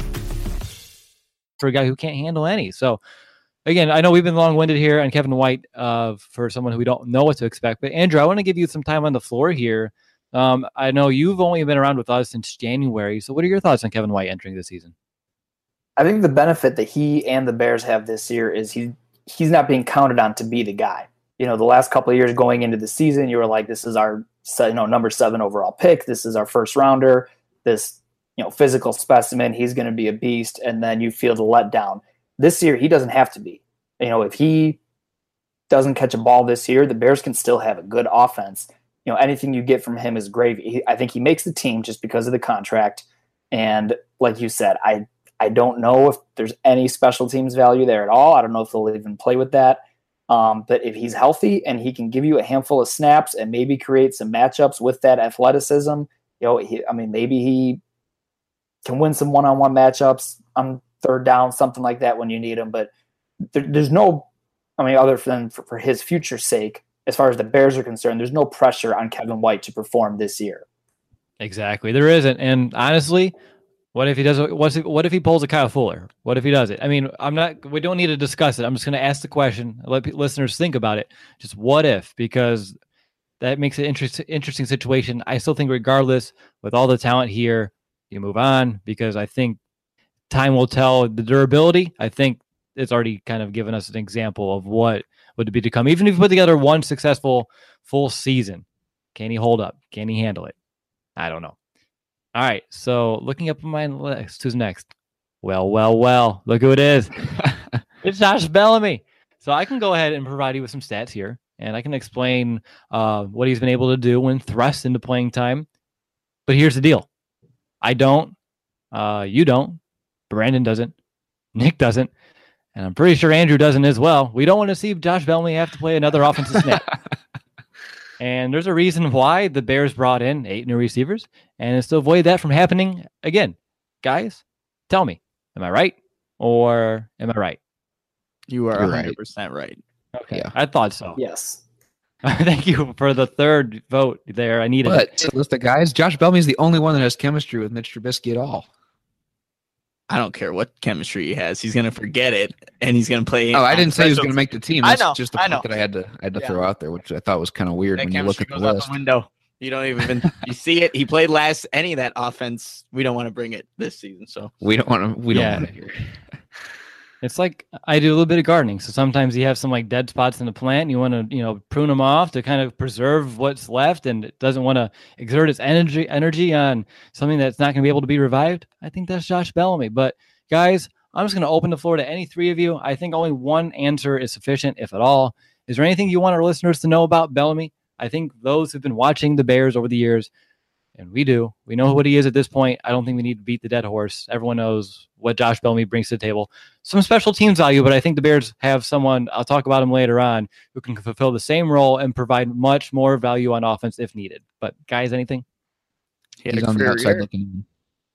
For a guy who can't handle any. So, again, I know we've been long-winded here on Kevin White uh, for someone who we don't know what to expect. But, Andrew, I want to give you some time on the floor here. Um, I know you've only been around with us since January. So what are your thoughts on Kevin White entering the season? I think the benefit that he and the Bears have this year is he he's not being counted on to be the guy. You know, the last couple of years going into the season, you were like, this is our you know number seven overall pick. This is our first rounder. This you know physical specimen. He's going to be a beast. And then you feel the letdown. This year, he doesn't have to be. You know, if he doesn't catch a ball this year, the Bears can still have a good offense. You know, anything you get from him is gravy. He, I think he makes the team just because of the contract. And like you said, I I don't know if there's any special teams value there at all. I don't know if they'll even play with that. Um, but if he's healthy and he can give you a handful of snaps and maybe create some matchups with that athleticism, you know, he, I mean, maybe he can win some one-on-one matchups on third down, something like that when you need him. But there, there's no, I mean, other than for, for his future's sake, as far as the Bears are concerned, there's no pressure on Kevin White to perform this year. Exactly. There isn't. And honestly, what if he does? What's if, what if he pulls a Kyle Fuller? What if he does it? I mean, I'm not. We don't need to discuss it. I'm just going to ask the question. Let listeners think about it. Just what if? Because that makes it interesting. Interesting situation. I still think, regardless, with all the talent here, you move on because I think time will tell the durability. I think it's already kind of given us an example of what would be to come. Even if you put together one successful full season, can he hold up? Can he handle it? I don't know. All right, so looking up on my list, who's next? Well, well, well, look who it is. It's Josh Bellamy. So I can go ahead and provide you with some stats here, and I can explain uh, what he's been able to do when thrust into playing time. But here's the deal. I don't, uh, you don't, Brandon doesn't, Nick doesn't, and I'm pretty sure Andrew doesn't as well. We don't want to see Josh Bellamy have to play another offensive snap. And there's a reason why the Bears brought in eight new receivers, and it's to avoid that from happening again. Guys, tell me, am I right or am I right? You are You're one hundred percent right. right. Okay, yeah. I thought so. Yes. Thank you for the third vote there. I needed but, it. To list of guys, Josh Bellamy is the only one that has chemistry with Mitch Trubisky at all. I don't care what chemistry he has. He's going to forget it, and he's going to play. Oh, I didn't say he was going to make the team. That's I know, just a I point know. that I had to I had to yeah. throw out there, which I thought was kind of weird that when you look at the goes list. Out the window. You don't even you see it. He played last. Any of that offense, we don't want to bring it this season. So we don't want to. We yeah. don't want to hear. It's like I do a little bit of gardening. So sometimes you have some like dead spots in the plant. And you want to, you know, prune them off to kind of preserve what's left, and it doesn't want to exert its energy energy on something that's not going to be able to be revived. I think that's Josh Bellamy. But guys, I'm just going to open the floor to any three of you. I think only one answer is sufficient, if at all. Is there anything you want our listeners to know about Bellamy? I think those who've been watching the Bears over the years and we do. We know what he is at this point. I don't think we need to beat the dead horse. Everyone knows what Josh Bellamy brings to the table. Some special teams value, but I think the Bears have someone, I'll talk about him later on, who can fulfill the same role and provide much more value on offense if needed. But guys, anything? He had He's a on the career outside year. looking.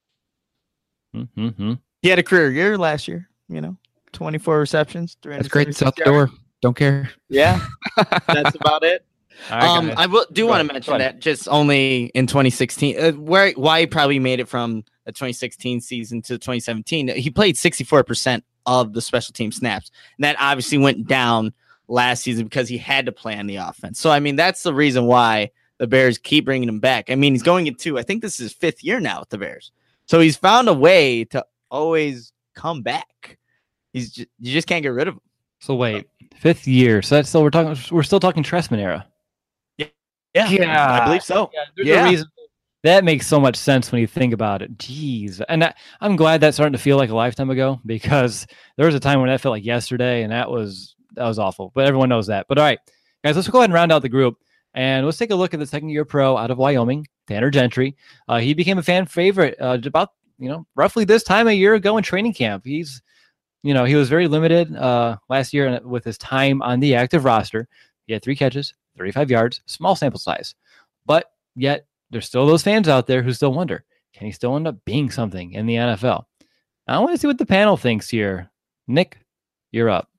Mm-hmm. He had a career year last year. You know, twenty-four receptions. That's great. It's out the yards. door. Don't care. Yeah, that's about it. All right, um, guys. I will, do Go want ahead. to mention Go ahead. that just only in twenty sixteen, uh, where why he probably made it from the twenty sixteen season to twenty seventeen. He played sixty-four percent of the special team snaps, and that obviously went down last season because he had to play on the offense. So I mean, that's the reason why the Bears keep bringing him back. I mean, he's going into, I think this is his fifth year now with the Bears, so he's found a way to always come back. He's just, you just can't get rid of him. So wait, fifth year. So that's still we're talking. We're still talking Tressman era. Yeah, Yeah. I believe so. Yeah, there's Yeah. a reason. That makes so much sense when you think about it. Jeez, and I, I'm glad that's starting to feel like a lifetime ago, because there was a time when that felt like yesterday, and that was that was awful. But everyone knows that. But all right, guys, let's go ahead and round out the group, and let's take a look at the second-year pro out of Wyoming, Tanner Gentry. Uh, he became a fan favorite uh, about you know roughly this time a year ago in training camp. He's you know he was very limited uh, last year with his time on the active roster. He had three catches, thirty-five yards, small sample size, but yet there's still those fans out there who still wonder, can he still end up being something in the N F L? I want to see what the panel thinks here. Nick, you're up.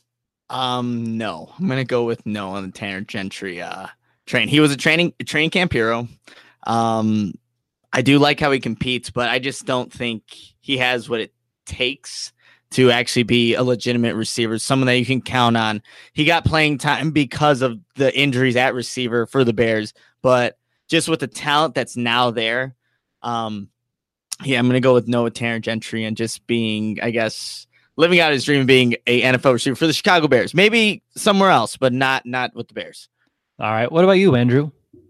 Um, no, I'm gonna go with no on the Tanner Gentry uh train. He was a training a training camp hero. Um, I do like how he competes, but I just don't think he has what it takes to actually be a legitimate receiver, someone that you can count on. He got playing time because of the injuries at receiver for the Bears, but just with the talent that's now there, um, yeah, I'm gonna go with Noah Tanner Gentry and just being, I guess, living out his dream of being a N F L receiver for the Chicago Bears. Maybe somewhere else, but not not with the Bears. All right. What about you, Andrew?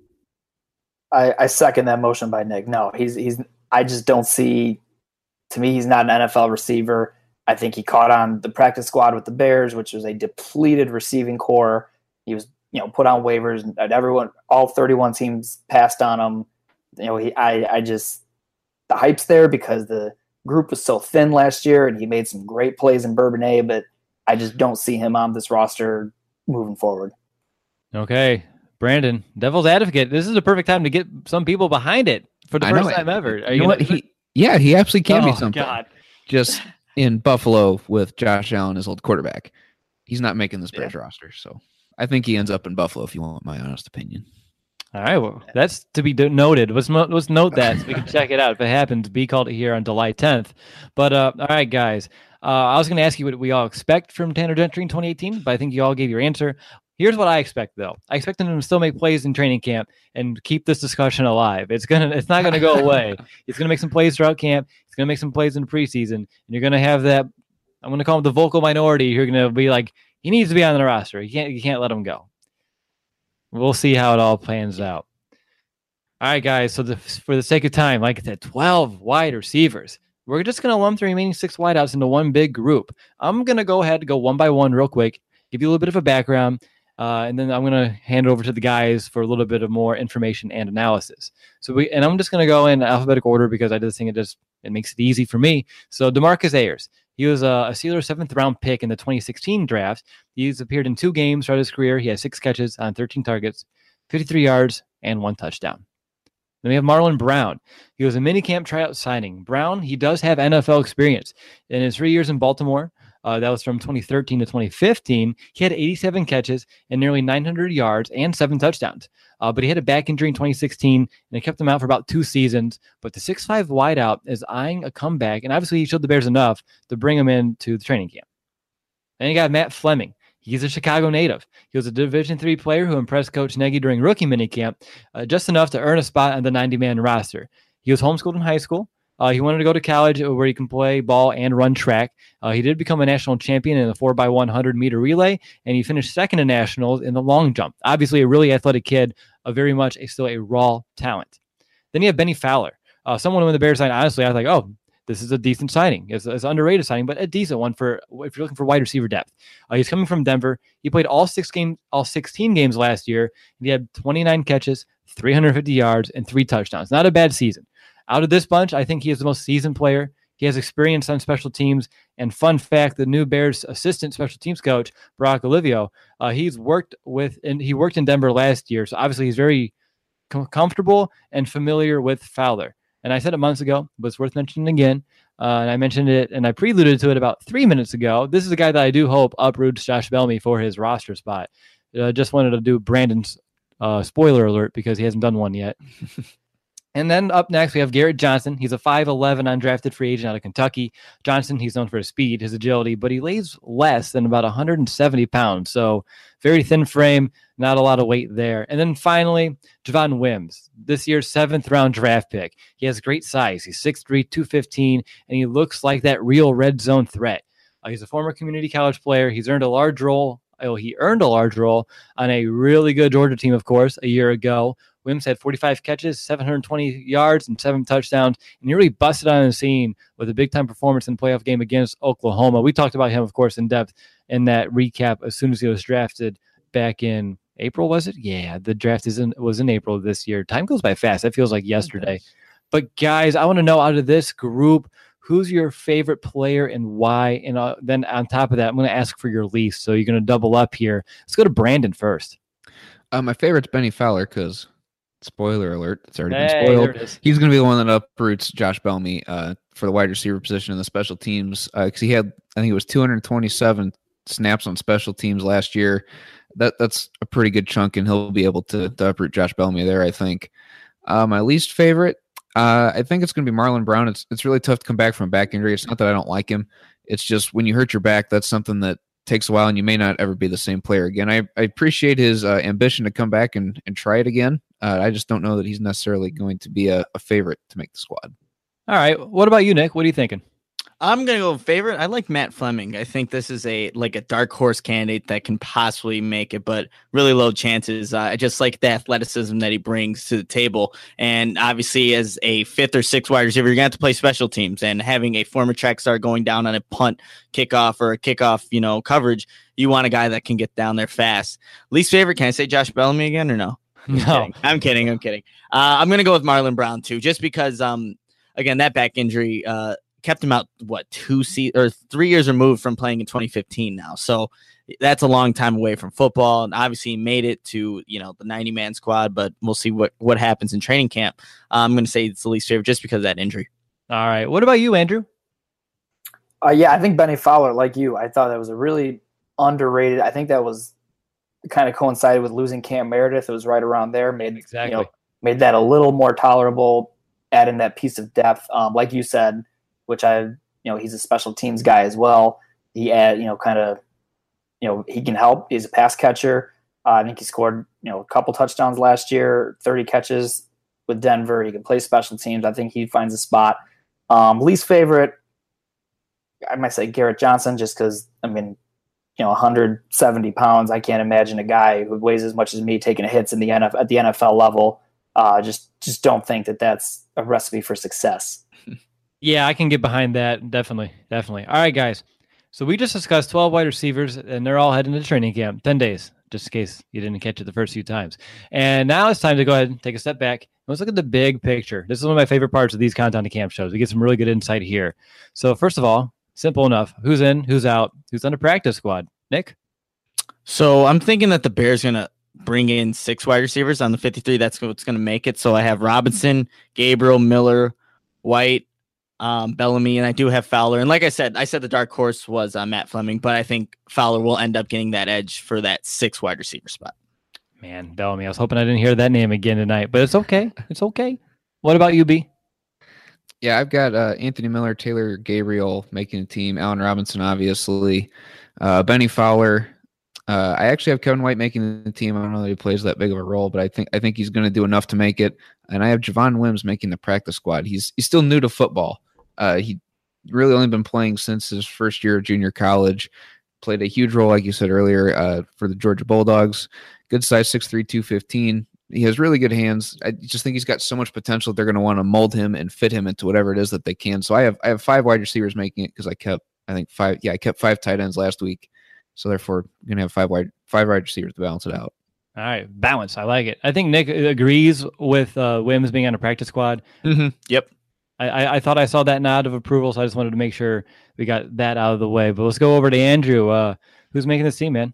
I, I second that motion by Nick. No, he's he's. I just don't see. To me, he's not an N F L receiver. I think he caught on the practice squad with the Bears, which was a depleted receiving core. He was, you know, put on waivers, and everyone, all thirty-one teams passed on him. You know, he. I. I just the hype's there because the group was so thin last year, and he made some great plays in Bourbonnais, but I just don't see him on this roster moving forward. Okay. Brandon, devil's advocate. This is a perfect time to get some people behind it for the I first know it. time ever. Are You know gonna what? do it? He, yeah, he absolutely can oh, be something. God. Just in Buffalo with Josh Allen as old quarterback. He's not making this Bears roster, so I think he ends up in Buffalo if you want my honest opinion. All right, well, that's to be do- noted. Let's, mo- let's note that so we can check it out. If it happens, be called it here on July tenth. But uh, all right, guys, uh, I was going to ask you what we all expect from Tanner Gentry in twenty eighteen, but I think you all gave your answer. Here's what I expect, though. I expect him to still make plays in training camp and keep this discussion alive. It's gonna, it's not gonna go away. He's gonna make some plays throughout camp. He's gonna make some plays in preseason, and you're gonna have that. I'm gonna call him the vocal minority. You're gonna be like, he needs to be on the roster. You can't, you can't let him go. We'll see how it all plans out. All right, guys. So the, for the sake of time, like I said, twelve wide receivers. We're just gonna lump the remaining six wideouts into one big group. I'm gonna go ahead and go one by one real quick, give you a little bit of a background. Uh, and then I'm going to hand it over to the guys for a little bit of more information and analysis. So we, and I'm just going to go in alphabetical order because I just think it just, it makes it easy for me. So DeMarcus Ayers, he was a, a Steelers seventh round pick in the twenty sixteen draft. He's appeared in two games throughout his career. He has six catches on thirteen targets, fifty-three yards, and one touchdown. Then we have Marlon Brown. He was a minicamp tryout signing. Brown, he does have N F L experience. In his three years in Baltimore, Uh, that was from twenty thirteen to twenty fifteen. He had eighty-seven catches and nearly nine hundred yards and seven touchdowns. Uh, but he had a back injury in twenty sixteen, and it kept him out for about two seasons. But the six five wideout is eyeing a comeback, and obviously he showed the Bears enough to bring him into the training camp. Then you got Matt Fleming. He's a Chicago native. He was a Division three player who impressed Coach Nagy during rookie minicamp, uh, just enough to earn a spot on the ninety-man roster. He was homeschooled in high school. Uh, he wanted to go to college where he can play ball and run track. Uh, he did become a national champion in the four by one hundred meter relay, and he finished second in nationals in the long jump. Obviously, a really athletic kid, a very much a, still a raw talent. Then you have Benny Fowler, uh, someone when the Bears signed. Honestly, I was like, oh, this is a decent signing. It's, it's an underrated signing, but a decent one for if you're looking for wide receiver depth. Uh, he's coming from Denver. He played all six games, all sixteen games last year. And he had twenty-nine catches, three hundred fifty yards, and three touchdowns. Not a bad season. Out of this bunch, I think he is the most seasoned player. He has experience on special teams. And fun fact, the new Bears assistant special teams coach, Brock Olivio, uh, he's worked with, and he worked in Denver last year. So obviously he's very com- comfortable and familiar with Fowler. And I said it months ago, but it's worth mentioning again. Uh, and I mentioned it, and I preluded to it about three minutes ago. This is a guy that I do hope uproots Josh Bellamy for his roster spot. I uh, just wanted to do Brandon's uh, spoiler alert because he hasn't done one yet. And then up next, we have Garrett Johnson. He's a five eleven undrafted free agent out of Kentucky. Johnson, he's known for his speed, his agility, but he weighs less than about one hundred seventy pounds. So very thin frame, not a lot of weight there. And then finally, Javon Wims, this year's seventh round draft pick. He has great size. He's six three, two fifteen, and he looks like that real red zone threat. Uh, he's a former community college player. He's earned a large role. Oh, he earned a large role on a really good Georgia team, of course, a year ago. Wims had forty-five catches, seven hundred twenty yards, and seven touchdowns, and he really busted on the scene with a big-time performance in the playoff game against Oklahoma. We talked about him, of course, in depth in that recap as soon as he was drafted back in April, was it? Yeah, the draft is in, was in April this year. Time goes by fast. That feels like yesterday. But, guys, I want to know out of this group, who's your favorite player and why? And uh, then on top of that, I'm going to ask for your least, so you're going to double up here. Let's go to Brandon first. Uh, my favorite's Benny Fowler because – spoiler alert, it's already hey, been spoiled. Is. He's going to be the one that uproots Josh Bellamy uh, for the wide receiver position in the special teams because uh, he had, I think it was two hundred twenty-seven snaps on special teams last year. That That's a pretty good chunk, and he'll be able to, to uproot Josh Bellamy there, I think. Uh, my least favorite, uh, I think it's going to be Marlon Brown. It's, it's really tough to come back from a back injury. It's not that I don't like him. It's just when you hurt your back, that's something that takes a while, and you may not ever be the same player again. I, I appreciate his uh, ambition to come back and, and try it again. Uh, I just don't know that he's necessarily going to be a, a favorite to make the squad. All right. What about you, Nick? What are you thinking? I'm going to go with favorite. I like Matt Fleming. I think this is a like a dark horse candidate that can possibly make it, but really low chances. Uh, I just like the athleticism that he brings to the table. And obviously, as a fifth or sixth wide receiver, you're going to have to play special teams. And having a former track star going down on a punt, kickoff, or a kickoff, you know, coverage, you want a guy that can get down there fast. Least favorite, can I say Josh Bellamy again or no? I'm No. kidding. I'm kidding. I'm kidding. Uh, I'm going to go with Marlon Brown, too, just because, um, again, that back injury uh, kept him out, what, two se- or three years removed from playing in twenty fifteen now. So that's a long time away from football. And obviously he made it to, you know, the ninety-man squad, but we'll see what, what happens in training camp. Uh, I'm going to say it's the least favorite just because of that injury. All right. What about you, Andrew? Uh, yeah, I think Benny Fowler, like you, I thought that was a really underrated. I think that was kind of coincided with losing Cam Meredith. It was right around there, made Exactly. you know, made that a little more tolerable, adding that piece of depth. Um, like you said, which I, you know, he's a special teams guy as well. He add, you know, kind of, you know, he can help. He's a pass catcher. Uh, I think he scored, you know, a couple touchdowns last year, thirty catches with Denver. He can play special teams. I think he finds a spot. Um, least favorite, I might say Garrett Johnson, just because, I mean, you know, one hundred seventy pounds. I can't imagine a guy who weighs as much as me taking hits in the N F L at the N F L level. Uh, just, just don't think that that's a recipe for success. Yeah, I can get behind that. Definitely. Definitely. All right, guys. So we just discussed twelve wide receivers, and they're all heading to training camp, ten days, just in case you didn't catch it the first few times. And now it's time to go ahead and take a step back. Let's look at the big picture. This is one of my favorite parts of these Countdown to Camp shows. We get some really good insight here. So first of all, simple enough. Who's in, who's out, who's on the practice squad? Nick? So I'm thinking that the Bears going to bring in six wide receivers on the fifty-three. That's what's going to make it. So I have Robinson, Gabriel, Miller, White, um, Bellamy, and I do have Fowler. And like I said, I said the dark horse was uh, Matt Fleming, but I think Fowler will end up getting that edge for that six wide receiver spot. Man, Bellamy. I was hoping I didn't hear that name again tonight, but it's okay. It's okay. What about you, B? Yeah, I've got uh, Anthony Miller, Taylor Gabriel making a team, Allen Robinson, obviously, uh, Benny Fowler. Uh, I actually have Kevin White making the team. I don't know that he plays that big of a role, but I think I think he's going to do enough to make it. And I have Javon Wims making the practice squad. He's he's still new to football. Uh, he really only been playing since his first year of junior college. Played a huge role, like you said earlier, uh, for the Georgia Bulldogs. Good size, six three, two fifteen. He has really good hands. I just think he's got so much potential. They're going to want to mold him and fit him into whatever it is that they can. So I have I have five wide receivers making it because I kept I think five yeah I kept five tight ends last week. So therefore, I'm going to have five wide five wide receivers to balance it out. All right, balance. I like it. I think Nick agrees with uh, Wims being on a practice squad. Mm-hmm. Yep. I, I, I thought I saw that nod of approval, so I just wanted to make sure we got that out of the way. But let's go over to Andrew. Uh, who's making this team, man?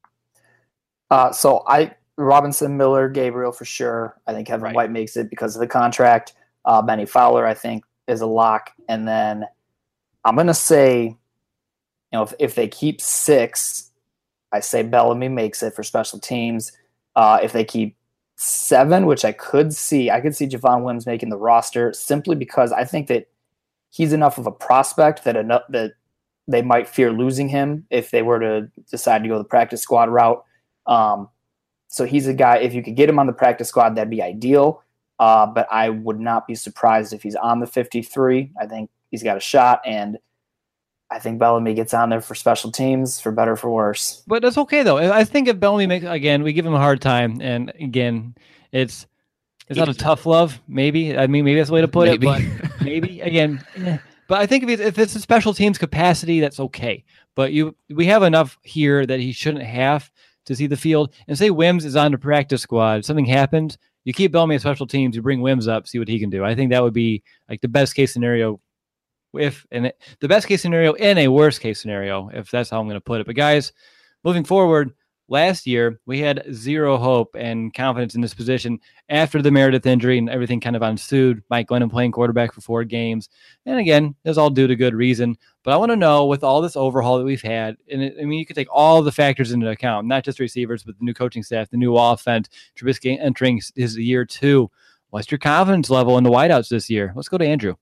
Uh, so I Robinson, Miller, Gabriel for sure. I think Kevin Right. White makes it because of the contract. Uh, Benny Fowler, I think, is a lock. And then I'm going to say, you know, if, if they keep six, I say Bellamy makes it for special teams. Uh, if they keep seven, which I could see, I could see Javon Wims making the roster simply because I think that he's enough of a prospect that enough, that they might fear losing him if they were to decide to go the practice squad route. Um, so he's a guy, if you could get him on the practice squad, that'd be ideal. Uh, but I would not be surprised if he's on the fifty-three. I think he's got a shot, and I think Bellamy gets on there for special teams, for better or for worse. But that's okay though. I think if Bellamy makes again, we give him a hard time, and again, it's it's not a tough love. Maybe I mean maybe that's the way to put Maybe. it. But maybe again, eh. But I think if it's, if it's a special teams capacity, that's okay. But you we have enough here that he shouldn't have to see the field. And say Wims is on the practice squad, if something happened, you keep Bellamy at special teams, you bring Wims up, see what he can do. I think that would be like the best case scenario. If and it, the best case scenario in a worst case scenario, if that's how I'm going to put it. But guys, moving forward, last year we had zero hope and confidence in this position after the Meredith injury and everything kind of ensued. Mike Glennon playing quarterback for four games, and again, that's all due to good reason. But I want to know, with all this overhaul that we've had, and it, I mean, you could take all the factors into account, not just receivers, but the new coaching staff, the new offense, Trubisky entering his year two. What's your confidence level in the wideouts this year? Let's go to Andrew.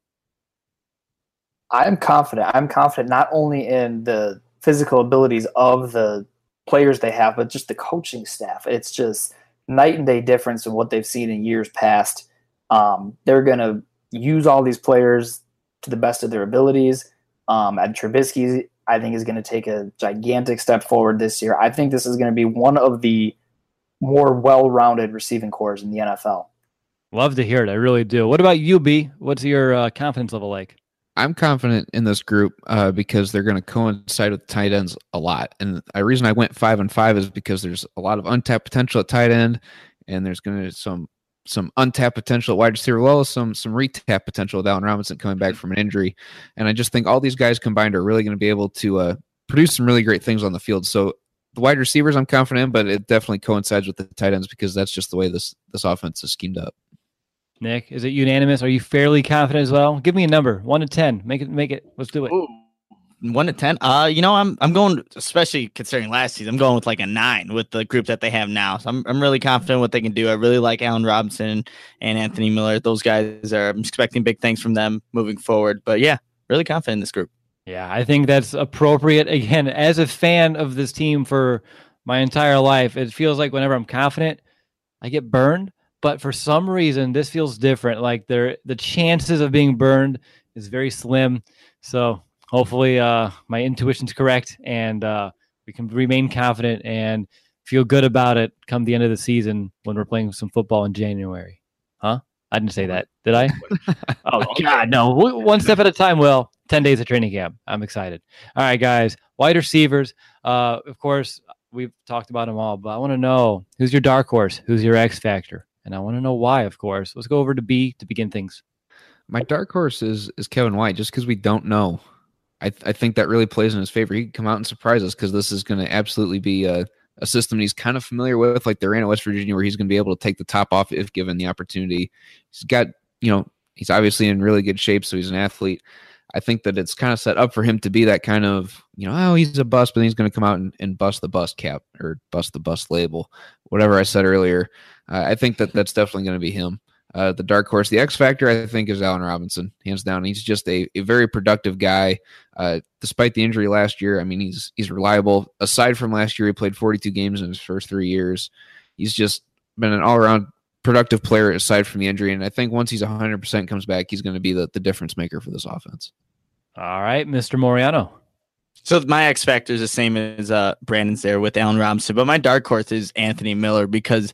I'm confident. I'm confident not only in the physical abilities of the players they have, but just the coaching staff. It's just night and day difference in what they've seen in years past. Um, they're going to use all these players to the best of their abilities. Um, and Trubisky, I think, is going to take a gigantic step forward this year. I think this is going to be one of the more well-rounded receiving corps in the N F L. Love to hear it. I really do. What about you, B? What's your uh, confidence level like? I'm confident in this group uh, because they're going to coincide with tight ends a lot. And the reason I went five and five is because there's a lot of untapped potential at tight end, and there's going to be some some untapped potential at wide receiver, as well as some some retapped potential with Allen Robinson coming back from an injury. And I just think all these guys combined are really going to be able to uh, produce some really great things on the field. So the wide receivers I'm confident in, but it definitely coincides with the tight ends because that's just the way this this offense is schemed up. Nick, is it unanimous? Are you fairly confident as well? Give me a number, one to ten. Make it, make it. Let's do it. Ooh, one to ten. Uh, you know, I'm I'm going, especially considering last season, I'm going with like a nine with the group that they have now. So I'm I'm really confident what they can do. I really like Allen Robinson and Anthony Miller. Those guys are. I'm expecting big things from them moving forward. But yeah, really confident in this group. Yeah, I think that's appropriate. Again, as a fan of this team for my entire life, it feels like whenever I'm confident, I get burned. But for some reason, this feels different. Like there, the chances of being burned is very slim. So hopefully uh, my intuition's correct, and uh, we can remain confident and feel good about it come the end of the season when we're playing some football in January. Huh? I didn't say that, did I? Oh, God, no. One step at a time, Will. ten days of training camp. I'm excited. All right, guys. Wide receivers. Uh, of course, we've talked about them all, but I want to know, who's your dark horse? Who's your X factor? And I want to know why, of course. Let's go over to B to begin things. My dark horse is is Kevin White, just because we don't know. I th- I think that really plays in his favor. He can come out and surprise us because this is going to absolutely be a, a system he's kind of familiar with, like they ran at West Virginia, where he's going to be able to take the top off if given the opportunity. He's got, you know, he's obviously in really good shape, so he's an athlete. I think that it's kind of set up for him to be that kind of, you know, oh, he's a bust, but then he's going to come out and, and bust the bust cap or bust the bust label, whatever I said earlier. Uh, I think that that's definitely going to be him. Uh, the dark horse, the X factor, I think, is Allen Robinson, hands down. He's just a, a very productive guy. Uh, despite the injury last year, I mean, he's he's reliable. Aside from last year, he played forty-two games in his first three years. He's just been an all-around productive player aside from the injury. And I think once he's one hundred percent comes back, he's going to be the, the difference maker for this offense. All right, Mister Moriano. So my X factor is the same as uh, Brandon's there with Allen Robinson, but my dark horse is Anthony Miller because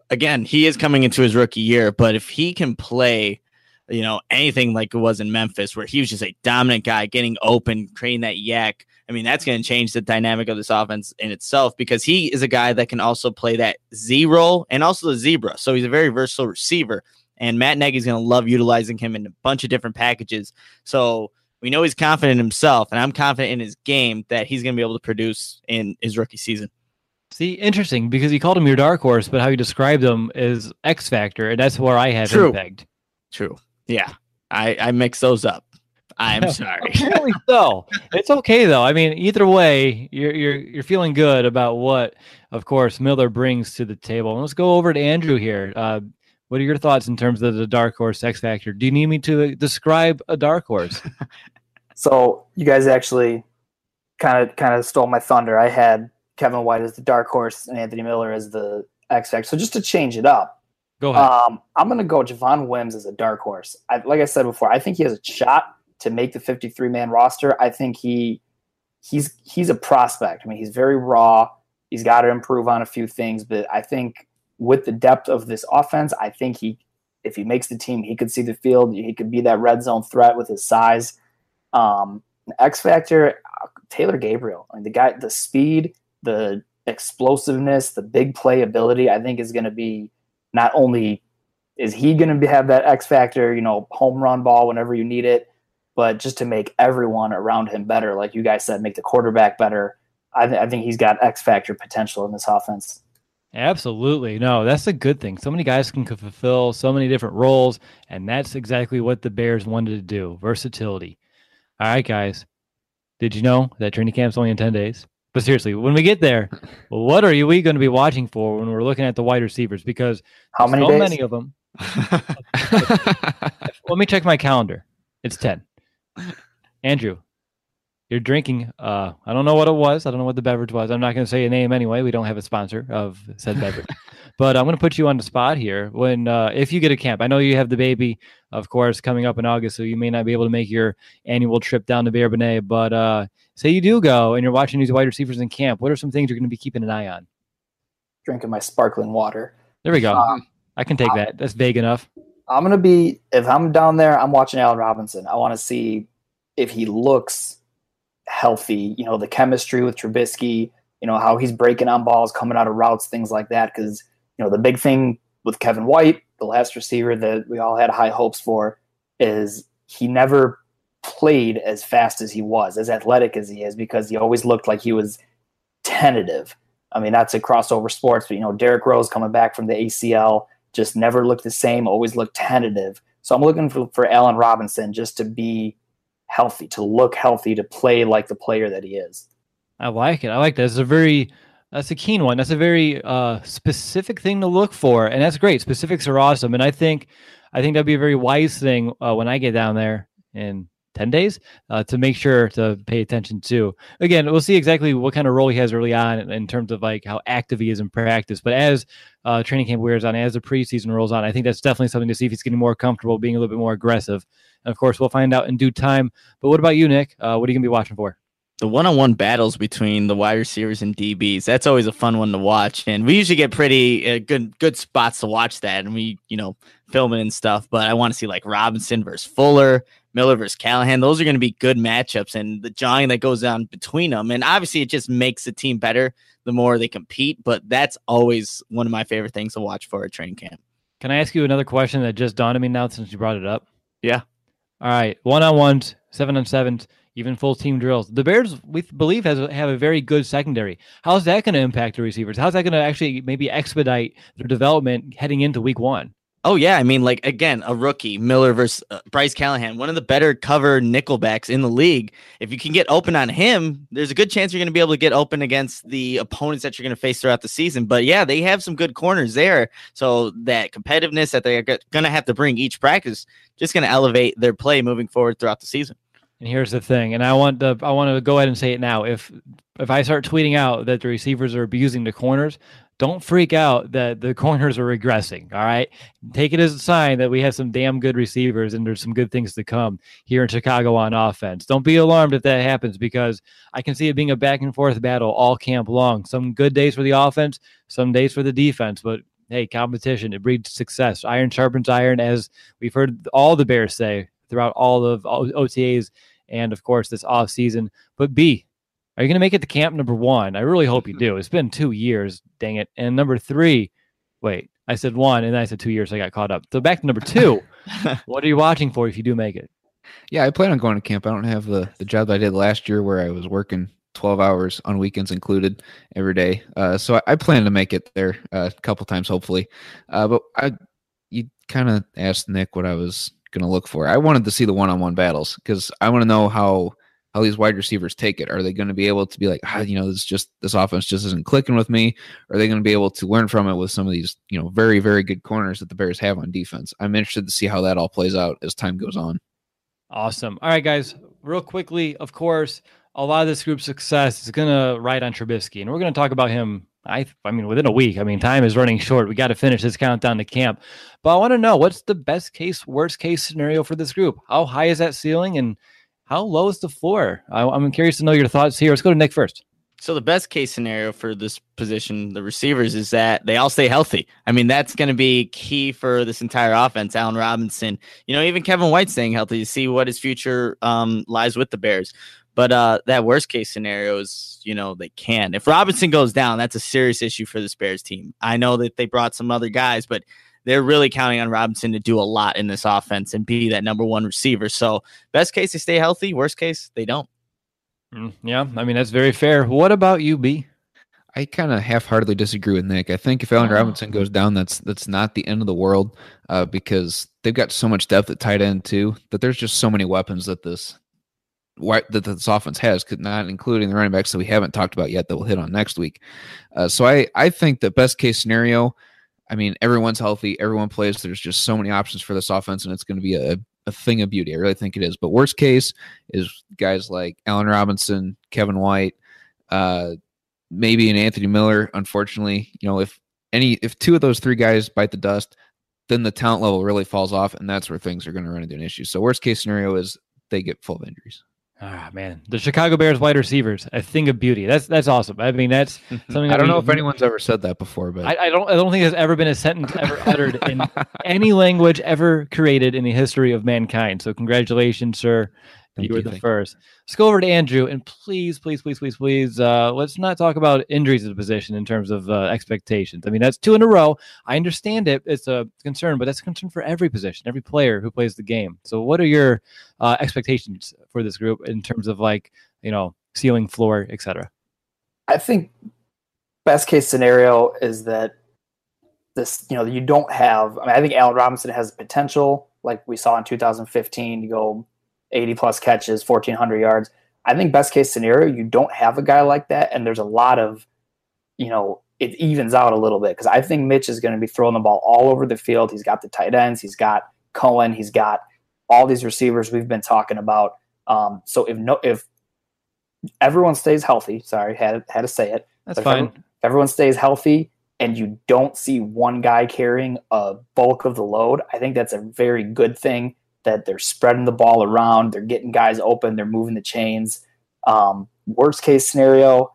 again, he is coming into his rookie year, but if he can play, you know, anything like it was in Memphis, where he was just a dominant guy, getting open, creating that yak, I mean, that's going to change the dynamic of this offense in itself, because he is a guy that can also play that Z role and also the zebra. So he's a very versatile receiver, and Matt Nagy's going to love utilizing him in a bunch of different packages. So we know he's confident in himself, and I'm confident in his game that he's going to be able to produce in his rookie season. See, interesting, because you called him your dark horse, but how you described him is X Factor, and that's where I have True. him pegged. True. Yeah, I, I mix those up. I'm sorry. Apparently so. It's okay though. I mean, either way, you're you're you're feeling good about what, of course, Miller brings to the table. And let's go over to Andrew here. Uh, what are your thoughts in terms of the dark horse X Factor? Do you need me to describe a dark horse? So you guys actually kind of kind of stole my thunder. I had Kevin White as the dark horse and Anthony Miller as the X Factor. So just to change it up, Go ahead. um, I'm going to go Javon Wims as a dark horse. I, like I said before, I think he has a shot to make the fifty-three man roster. I think he he's he's a prospect. I mean, he's very raw. He's got to improve on a few things, but I think with the depth of this offense, I think he, if he makes the team, he could see the field. He could be that red zone threat with his size. Um, X Factor, Taylor Gabriel. I mean, the guy, the speed, the explosiveness, the big play ability, I think is going to be, not only is he going to have that X Factor, you know, home run ball whenever you need it, but just to make everyone around him better, like you guys said, make the quarterback better. I, th- I think he's got X Factor potential in this offense. Absolutely. No, that's a good thing. So many guys can fulfill so many different roles, and that's exactly what the Bears wanted to do, versatility. All right, guys. Did you know that training camp's only in ten days? But seriously, when we get there, what are we going to be watching for when we're looking at the wide receivers? Because how many so days? many of them. Let me check my calendar. It's ten. Andrew, you're drinking. Uh, I don't know what it was. I don't know what the beverage was. I'm not going to say a name anyway. We don't have a sponsor of said beverage. But I'm going to put you on the spot here. When uh, if you get a camp, I know you have the baby, of course, coming up in August, so you may not be able to make your annual trip down to Bourbonnais. But uh, say you do go and you're watching these wide receivers in camp, what are some things you're going to be keeping an eye on? Drinking my sparkling water. There we go. Um, I can take that. That's vague enough. I'm going to be, if I'm down there, I'm watching Allen Robinson. I want to see if he looks healthy, you know, the chemistry with Trubisky, you know, how he's breaking on balls, coming out of routes, things like that. Because, you know, the big thing with Kevin White, the last receiver that we all had high hopes for, is he never played as fast as he was, as athletic as he is, because he always looked like he was tentative. I mean, that's a crossover sports, but, you know, Derrick Rose coming back from the A C L just never looked the same, always looked tentative. So I'm looking for, for Allen Robinson just to be healthy, to look healthy, to play like the player that he is. I like it. I like that. It's a very, that's a keen one. That's a very uh, specific thing to look for, and that's great. Specifics are awesome, and I think, I think that'd be a very wise thing uh, when I get down there in ten days uh, to make sure to pay attention to. Again, we'll see exactly what kind of role he has early on in, in terms of like how active he is in practice. But as uh, training camp wears on, as the preseason rolls on, I think that's definitely something to see if he's getting more comfortable, being a little bit more aggressive. And of course, we'll find out in due time. But what about you, Nick? Uh, what are you going to be watching for? The one-on-one battles between the wide receivers and D Bs, that's always a fun one to watch. And we usually get pretty uh, good good spots to watch that. And we, you know, film it and stuff. But I want to see like Robinson versus Fuller, Miller versus Callahan. Those are going to be good matchups. And the jawing that goes on between them. And obviously, it just makes the team better the more they compete. But that's always one of my favorite things to watch for a training camp. Can I ask you another question that just dawned on me now since you brought it up? Yeah. All right. One-on-ones, seven-on-sevens, even full team drills. The Bears, we believe, has have a very good secondary. How's that going to impact the receivers? How's that going to actually maybe expedite their development heading into week one? Oh, yeah. I mean, like, again, a rookie, Miller versus uh, Bryce Callahan, one of the better cover nickelbacks in the league. If you can get open on him, there's a good chance you're going to be able to get open against the opponents that you're going to face throughout the season. But, yeah, they have some good corners there. So that competitiveness that they're going to have to bring each practice just going to elevate their play moving forward throughout the season. And here's the thing, and I want to I want to go ahead and say it now. If if I start tweeting out that the receivers are abusing the corners, don't freak out that the corners are regressing, all right? Take it as a sign that we have some damn good receivers and there's some good things to come here in Chicago on offense. Don't be alarmed if that happens, because I can see it being a back and forth battle all camp long. Some good days for the offense, some days for the defense, but hey, competition, it breeds success. Iron sharpens iron, as we've heard all the Bears say throughout all of O T As and, of course, this off season. But B, are you going to make it to camp, number one? I really hope you do. It's been two years, dang it. And number three, wait, I said one, and then I said two years, so I got caught up. So back to number two. What are you watching for if you do make it? Yeah, I plan on going to camp. I don't have the, the job that I did last year where I was working twelve hours on weekends included every day. Uh, so I, I plan to make it there uh, a couple times, hopefully. Uh, but I, you kind of asked Nick what I was going to look for. I wanted to see the one-on-one battles because I want to know how how these wide receivers take it. Are they going to be able to be like, ah, you know, this just this offense just isn't clicking with me? Or are they going to be able to learn from it with some of these, you know, very, very good corners that the Bears have on defense? I'm interested to see how that all plays out as time goes on. Awesome. All right, guys, real quickly, of course, a lot of this group's success is going to ride on Trubisky, and we're going to talk about him. I, I mean, within a week. I mean, time is running short. We got to finish this countdown to camp. But I want to know, what's the best case, worst case scenario for this group? How high is that ceiling, and how low is the floor? I, I'm curious to know your thoughts here. Let's go to Nick first. So the best case scenario for this position, the receivers, is that they all stay healthy. I mean, that's going to be key for this entire offense. Allen Robinson, you know, even Kevin White staying healthy to see what his future um, lies with the Bears. But uh, that worst case scenario is, you know, they can. If Robinson goes down, that's a serious issue for this Bears team. I know that they brought some other guys, but they're really counting on Robinson to do a lot in this offense and be that number one receiver. So best case, they stay healthy. Worst case, they don't. Mm, yeah, I mean, that's very fair. What about you, B? I kind of half-heartedly disagree with Nick. I think if Allen Oh. Robinson goes down, that's that's not the end of the world uh, because they've got so much depth at tight end too that there's just so many weapons that this that this offense has, not including the running backs that we haven't talked about yet that we'll hit on next week. Uh, so I, I think the best case scenario, I mean, everyone's healthy, everyone plays. There's just so many options for this offense, and it's going to be a, a thing of beauty. I really think it is. But worst case is guys like Allen Robinson, Kevin White, uh, maybe an Anthony Miller. Unfortunately, you know, if any, if two of those three guys bite the dust, then the talent level really falls off, and that's where things are going to run into an issue. So worst case scenario is they get full of injuries. Ah, man, the Chicago Bears wide receivers, a thing of beauty. That's that's awesome. I mean, that's something. I don't we, know if anyone's ever said that before, but I, I don't. I don't think there's ever been a sentence ever uttered in any language ever created in the history of mankind. So, congratulations, sir. Thank you were you, the thank first. Let's go over to Andrew, and please, please, please, please, please, uh, let's not talk about injuries at the position in terms of uh, expectations. I mean, that's two in a row. I understand it; it's a concern, but that's a concern for every position, every player who plays the game. So, what are your uh, expectations for this group in terms of, like, you know, ceiling, floor, et cetera? I think best case scenario is that this, you know, you don't have. I mean, I think Allen Robinson has potential, like we saw in two thousand fifteen, to go eighty plus catches, fourteen hundred yards. I think best case scenario, you don't have a guy like that. And there's a lot of, you know, it evens out a little bit because I think Mitch is going to be throwing the ball all over the field. He's got the tight ends. He's got Cohen. He's got all these receivers we've been talking about. Um, so if no, if everyone stays healthy, sorry, had, had to say it. That's But if fine. everyone, if everyone stays healthy and you don't see one guy carrying a bulk of the load, I think that's a very good thing. That they're spreading the ball around, they're getting guys open, they're moving the chains. Um, worst case scenario,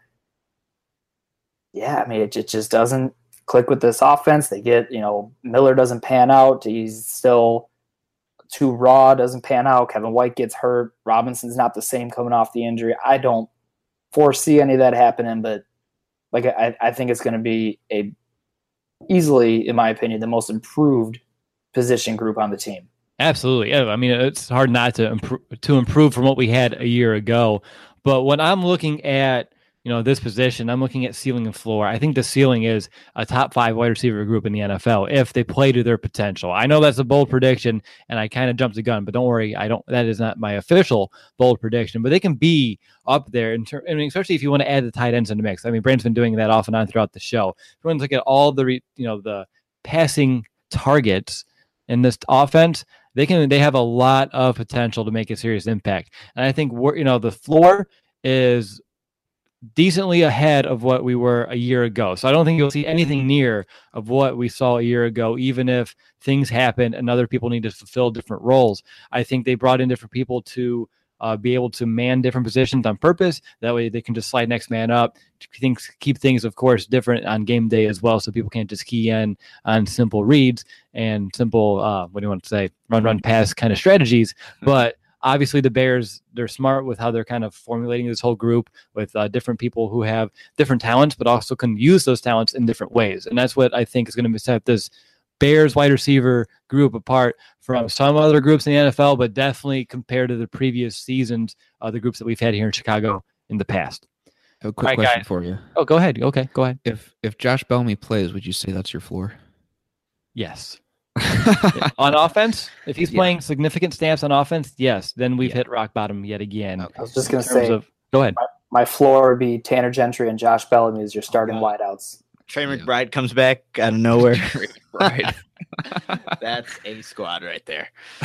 yeah, I mean, it, it just doesn't click with this offense. They get, you know, Miller doesn't pan out. He's still too raw, doesn't pan out. Kevin White gets hurt. Robinson's not the same coming off the injury. I don't foresee any of that happening, but like I, I think it's going to be a easily, in my opinion, the most improved position group on the team. Absolutely. Yeah, I mean, it's hard not to improve, to improve from what we had a year ago. But when I'm looking at, you know, this position, I'm looking at ceiling and floor. I think the ceiling is a top five wide receiver group in the N F L if they play to their potential. I know that's a bold prediction, and I kind of jumped the gun, but don't worry, I don't. That is not my official bold prediction. But they can be up there, in ter- I mean, especially if you want to add the tight ends in the mix. I mean, Brandon's been doing that off and on throughout the show. If you want to look at all the, re- you know, the passing targets in this offense, they can. They have a lot of potential to make a serious impact. And I think we're, you know, the floor is decently ahead of what we were a year ago. So I don't think you'll see anything near of what we saw a year ago, even if things happen and other people need to fulfill different roles. I think they brought in different people to uh, be able to man different positions on purpose. That way they can just slide next man up. Things keep things, of course, different on game day as well, so people can't just key in on simple reads and simple, uh, what do you want to say, run, run, pass kind of strategies. But obviously the Bears, they're smart with how they're kind of formulating this whole group with uh, different people who have different talents, but also can use those talents in different ways. And that's what I think is going to set this Bears wide receiver group apart from some other groups in the N F L, but definitely compared to the previous seasons, uh, the groups that we've had here in Chicago in the past. A quick right, question guys. for you. Oh, go ahead. Okay, go ahead. If if Josh Bellamy plays, would you say that's your floor? Yes. On offense, if he's Yeah. playing significant snaps on offense, yes, then we've Yeah. hit rock bottom yet again. I was just going to In terms say, of- go ahead. my floor would be Tanner Gentry and Josh Bellamy as your starting Uh-huh. wideouts. Trey Yeah. McBride comes back out of nowhere. Right. That's a squad right there.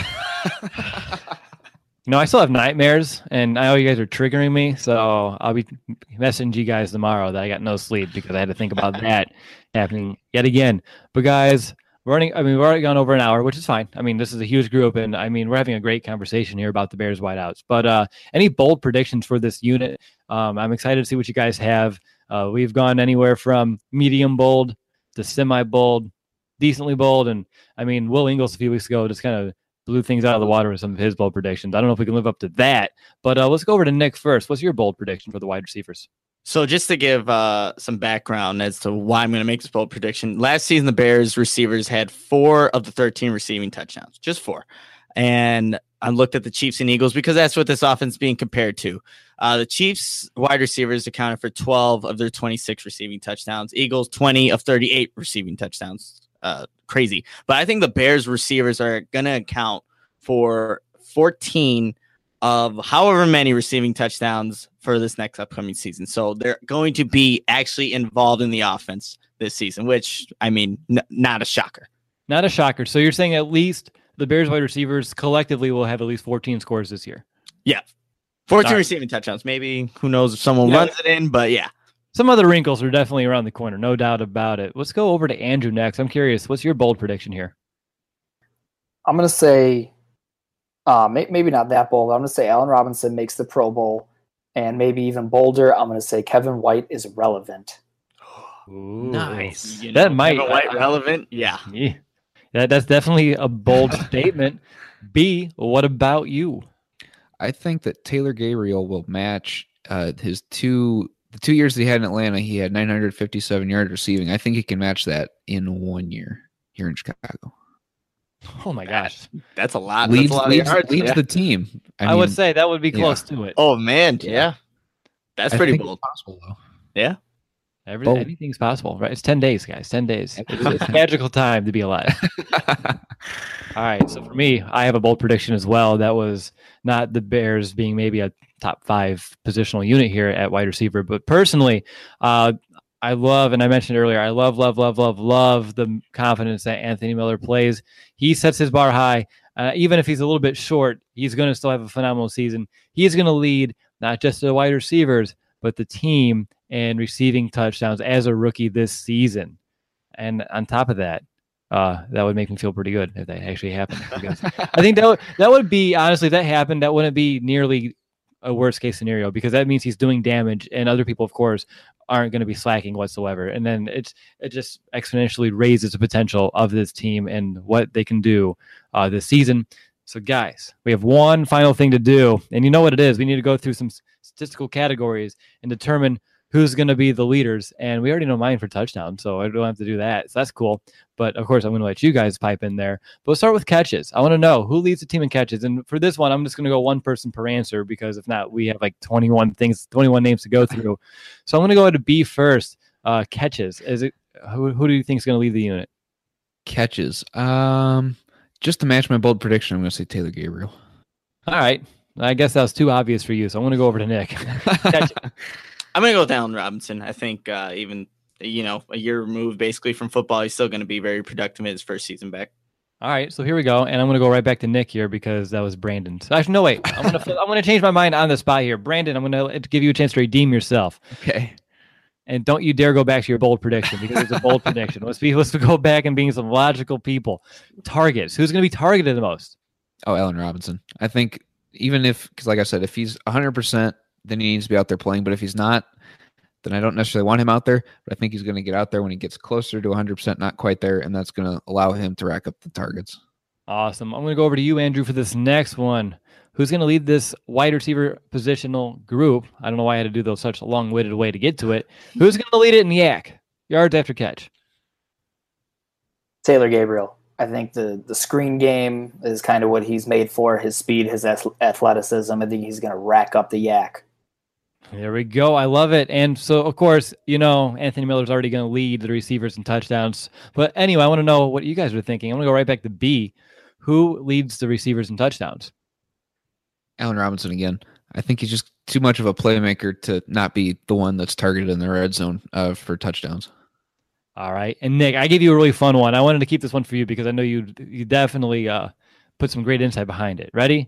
You know, I still have nightmares, and I know you guys are triggering me, so I'll be messaging you guys tomorrow that I got no sleep because I had to think about that happening yet again. But guys, we're running. I mean, we've already gone over an hour, which is fine. I mean, this is a huge group, and I mean, we're having a great conversation here about the Bears wideouts. But uh, any bold predictions for this unit? Um, I'm excited to see what you guys have. Uh, we've gone anywhere from medium bold to semi bold, decently bold, and I mean, Will Ingles a few weeks ago just kind of blew things out of the water with some of his bold predictions. I don't know if we can live up to that, but uh, let's go over to Nick first. What's your bold prediction for the wide receivers? So just to give uh, some background as to why I'm going to make this bold prediction, last season the Bears receivers had four of the thirteen receiving touchdowns, just four. And I looked at the Chiefs and Eagles because that's what this offense is being compared to. Uh, the Chiefs wide receivers accounted for twelve of their twenty-six receiving touchdowns. Eagles, twenty of thirty-eight receiving touchdowns. Uh, crazy. But I think the Bears receivers are going to account for fourteen of however many receiving touchdowns for this next upcoming season. So they're going to be actually involved in the offense this season, which, I mean, n- not a shocker. Not a shocker. So you're saying at least the Bears wide receivers collectively will have at least fourteen scores this year. Yeah. fourteen All right. receiving touchdowns. Maybe, who knows if someone Yeah. runs it in, but yeah. Some other wrinkles are definitely around the corner, no doubt about it. Let's go over to Andrew next. I'm curious, what's your bold prediction here? I'm going to say, uh, may- maybe not that bold. I'm going to say Allen Robinson makes the Pro Bowl, and maybe even bolder, I'm going to say Kevin White is relevant. Ooh. Nice. You That know, might- Kevin White relevant. Yeah. Yeah. That, that's definitely a bold statement. B, what about you? I think that Taylor Gabriel will match uh, his two the two years that he had in Atlanta. He had nine hundred fifty-seven yards receiving. I think he can match that in one year here in Chicago. Oh my gosh. That's a lot. Leads, That's a lot leads, of yards. leads yeah. the team. I, I, mean, would say that would be yeah. close to it. Oh, man. Yeah. Yeah. That's I pretty think bold. it's possible, though. Yeah. Every, bold. anything's possible, right? It's ten days, guys. ten days. It's, it's a magical time to be alive. All right. So for me, I have a bold prediction as well. That was not the Bears being maybe a top five positional unit here at wide receiver, but personally, uh, I love, and I mentioned earlier, I love, love, love, love, love the confidence that Anthony Miller plays. He sets his bar high. Uh, even if he's a little bit short, he's going to still have a phenomenal season. He is going to lead not just the wide receivers, but the team in receiving touchdowns as a rookie this season. And on top of that, uh, that would make me feel pretty good if that actually happened. Because I think that would, that would be, honestly, if that happened, that wouldn't be nearly a worst case scenario, because that means he's doing damage, and other people, of course, aren't going to be slacking whatsoever. And then it's it just exponentially raises the potential of this team and what they can do uh, this season. So, guys, we have one final thing to do, and you know what it is. We need to go through some statistical categories and determine who's going to be the leaders. And we already know mine for touchdown, so I don't have to do that. So that's cool. But, of course, I'm going to let you guys pipe in there. But we'll start with catches. I want to know who leads the team in catches. And for this one, I'm just going to go one person per answer, because if not, we have like twenty-one things, twenty-one names to go through. So I'm going to go to B first. Uh, catches. Is it who, who do you think is going to lead the unit? Catches. Um, just to match my bold prediction, I'm going to say Taylor Gabriel. All right. I guess that was too obvious for you, so I'm going to go over to Nick. Catches. I'm going to go with Allen Robinson. I think uh, even, you know, a year removed basically from football, he's still going to be very productive in his first season back. All right, so here we go, and I'm going to go right back to Nick here because that was Brandon. So actually, no, wait. I'm going to I'm going to change my mind on the spot here. Brandon, I'm going to give you a chance to redeem yourself. Okay. And don't you dare go back to your bold prediction, because it's a bold prediction. Let's be let's go back and being some logical people. Targets. Who's going to be targeted the most? Oh, Allen Robinson. I think even if, because like I said, if he's one hundred percent, then he needs to be out there playing. But if he's not, then I don't necessarily want him out there. But I think he's going to get out there when he gets closer to one hundred percent, not quite there, and that's going to allow him to rack up the targets. Awesome. I'm going to go over to you, Andrew, for this next one. Who's going to lead this wide receiver positional group? I don't know why I had to do those such a long-winded way to get to it. Who's going to lead it in yak? Yards after catch. Taylor Gabriel. I think the, the screen game is kind of what he's made for, his speed, his athleticism. I think he's going to rack up the yak. There we go. I love it. And so, of course, you know, Anthony Miller's already going to lead the receivers and touchdowns. But anyway, I want to know what you guys were thinking. I'm going to go right back to B. Who leads the receivers and touchdowns? Allen Robinson again. I think he's just too much of a playmaker to not be the one that's targeted in the red zone uh, for touchdowns. All right. And Nick, I gave you a really fun one. I wanted to keep this one for you because I know you you definitely uh, put some great insight behind it. Ready?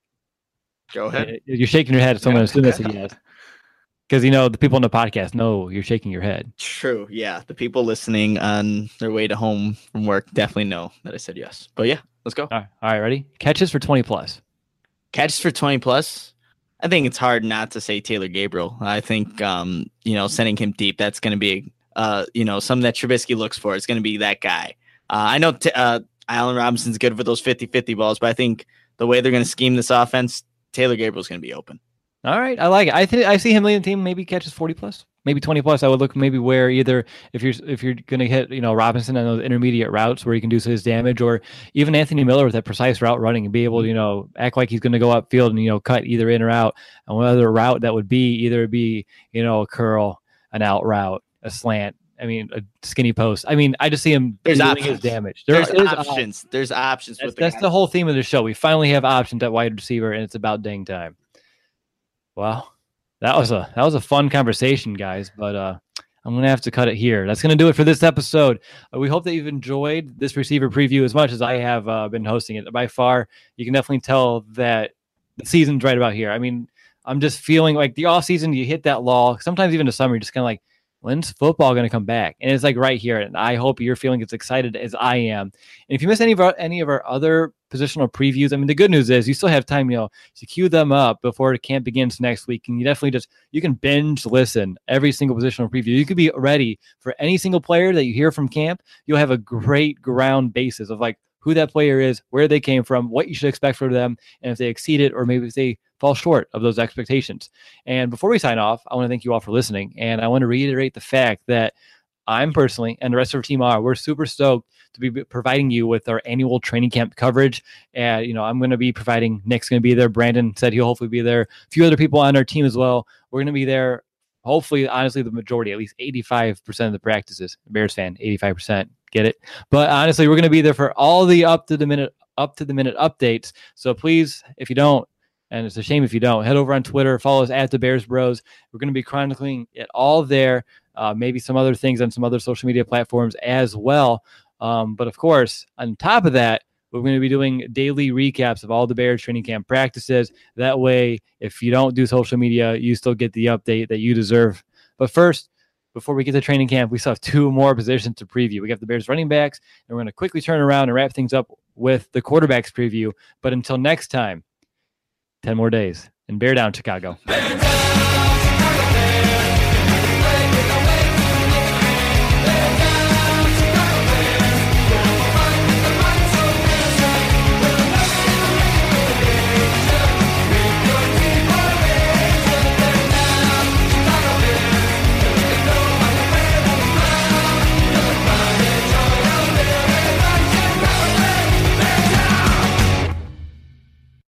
Go ahead. You're shaking your head, so I'm going to assume that's a yes. Because, you know, the people on the podcast know you're shaking your head. True. Yeah. The people listening on their way to home from work definitely know that I said yes. But yeah, let's go. All right. All right. Ready? Catches for twenty plus. Catches for twenty plus. I think it's hard not to say Taylor Gabriel. I think, um, you know, sending him deep, that's going to be, uh, you know, something that Trubisky looks for. It's going to be that guy. Uh, I know t- uh, Allen Robinson's good for those fifty-fifty balls, but I think the way they're going to scheme this offense, Taylor Gabriel's going to be open. All right, I like it. I think I see him leading the team. Maybe catches forty plus, maybe twenty plus. I would look maybe where either if you're if you're going to hit you know Robinson on those intermediate routes where he can do his damage, or even Anthony Miller with that precise route running and be able to you know act like he's going to go upfield and you know cut either in or out. And what other route that would be either be you know a curl, an out route, a slant. I mean a skinny post. I mean I just see him There's doing options. his damage. There's, There is options. op- There's options. That's, with the that's guys. the whole theme of the show. We finally have options at wide receiver, and it's about dang time. Wow. That was a that was a fun conversation, guys, but uh, I'm going to have to cut it here. That's going to do it for this episode. Uh, we hope that you've enjoyed this receiver preview as much as I have uh, been hosting it. By far, you can definitely tell that the season's right about here. I mean, I'm just feeling like the offseason, you hit that lull. Sometimes even the summer, you're just kind of like, when's football going to come back? And it's like right here. And I hope you're feeling as excited as I am. And if you miss any of our any of our other positional previews, I mean, the good news is you still have time, you know, to queue them up before the camp begins next week. And you definitely just, you can binge listen every single positional preview. You could be ready for any single player that you hear from camp. You'll have a great ground basis of like who that player is, where they came from, what you should expect from them, and if they exceed it or maybe if they fall short of those expectations. And before we sign off, I want to thank you all for listening. And I want to reiterate the fact that I'm personally, and the rest of our team are, we're super stoked to be providing you with our annual training camp coverage. And, you know, I'm going to be providing, Nick's going to be there. Brandon said he'll hopefully be there. A few other people on our team as well. We're going to be there. Hopefully, honestly, the majority, at least eighty-five percent of the practices. Bears fan, eighty-five percent. Get it? But honestly, we're going to be there for all the up to the minute, up to the minute updates. So please, if you don't, and it's a shame if you don't, head over on Twitter, follow us at the Bears Bros. We're going to be chronicling it all there. Uh, maybe some other things on some other social media platforms as well. Um, but of course, on top of that, we're going to be doing daily recaps of all the Bears training camp practices. That way, if you don't do social media, you still get the update that you deserve. But first, before we get to training camp, we still have two more positions to preview. We got the Bears running backs, and we're going to quickly turn around and wrap things up with the quarterbacks preview. But until next time, ten more days and bear down, Chicago.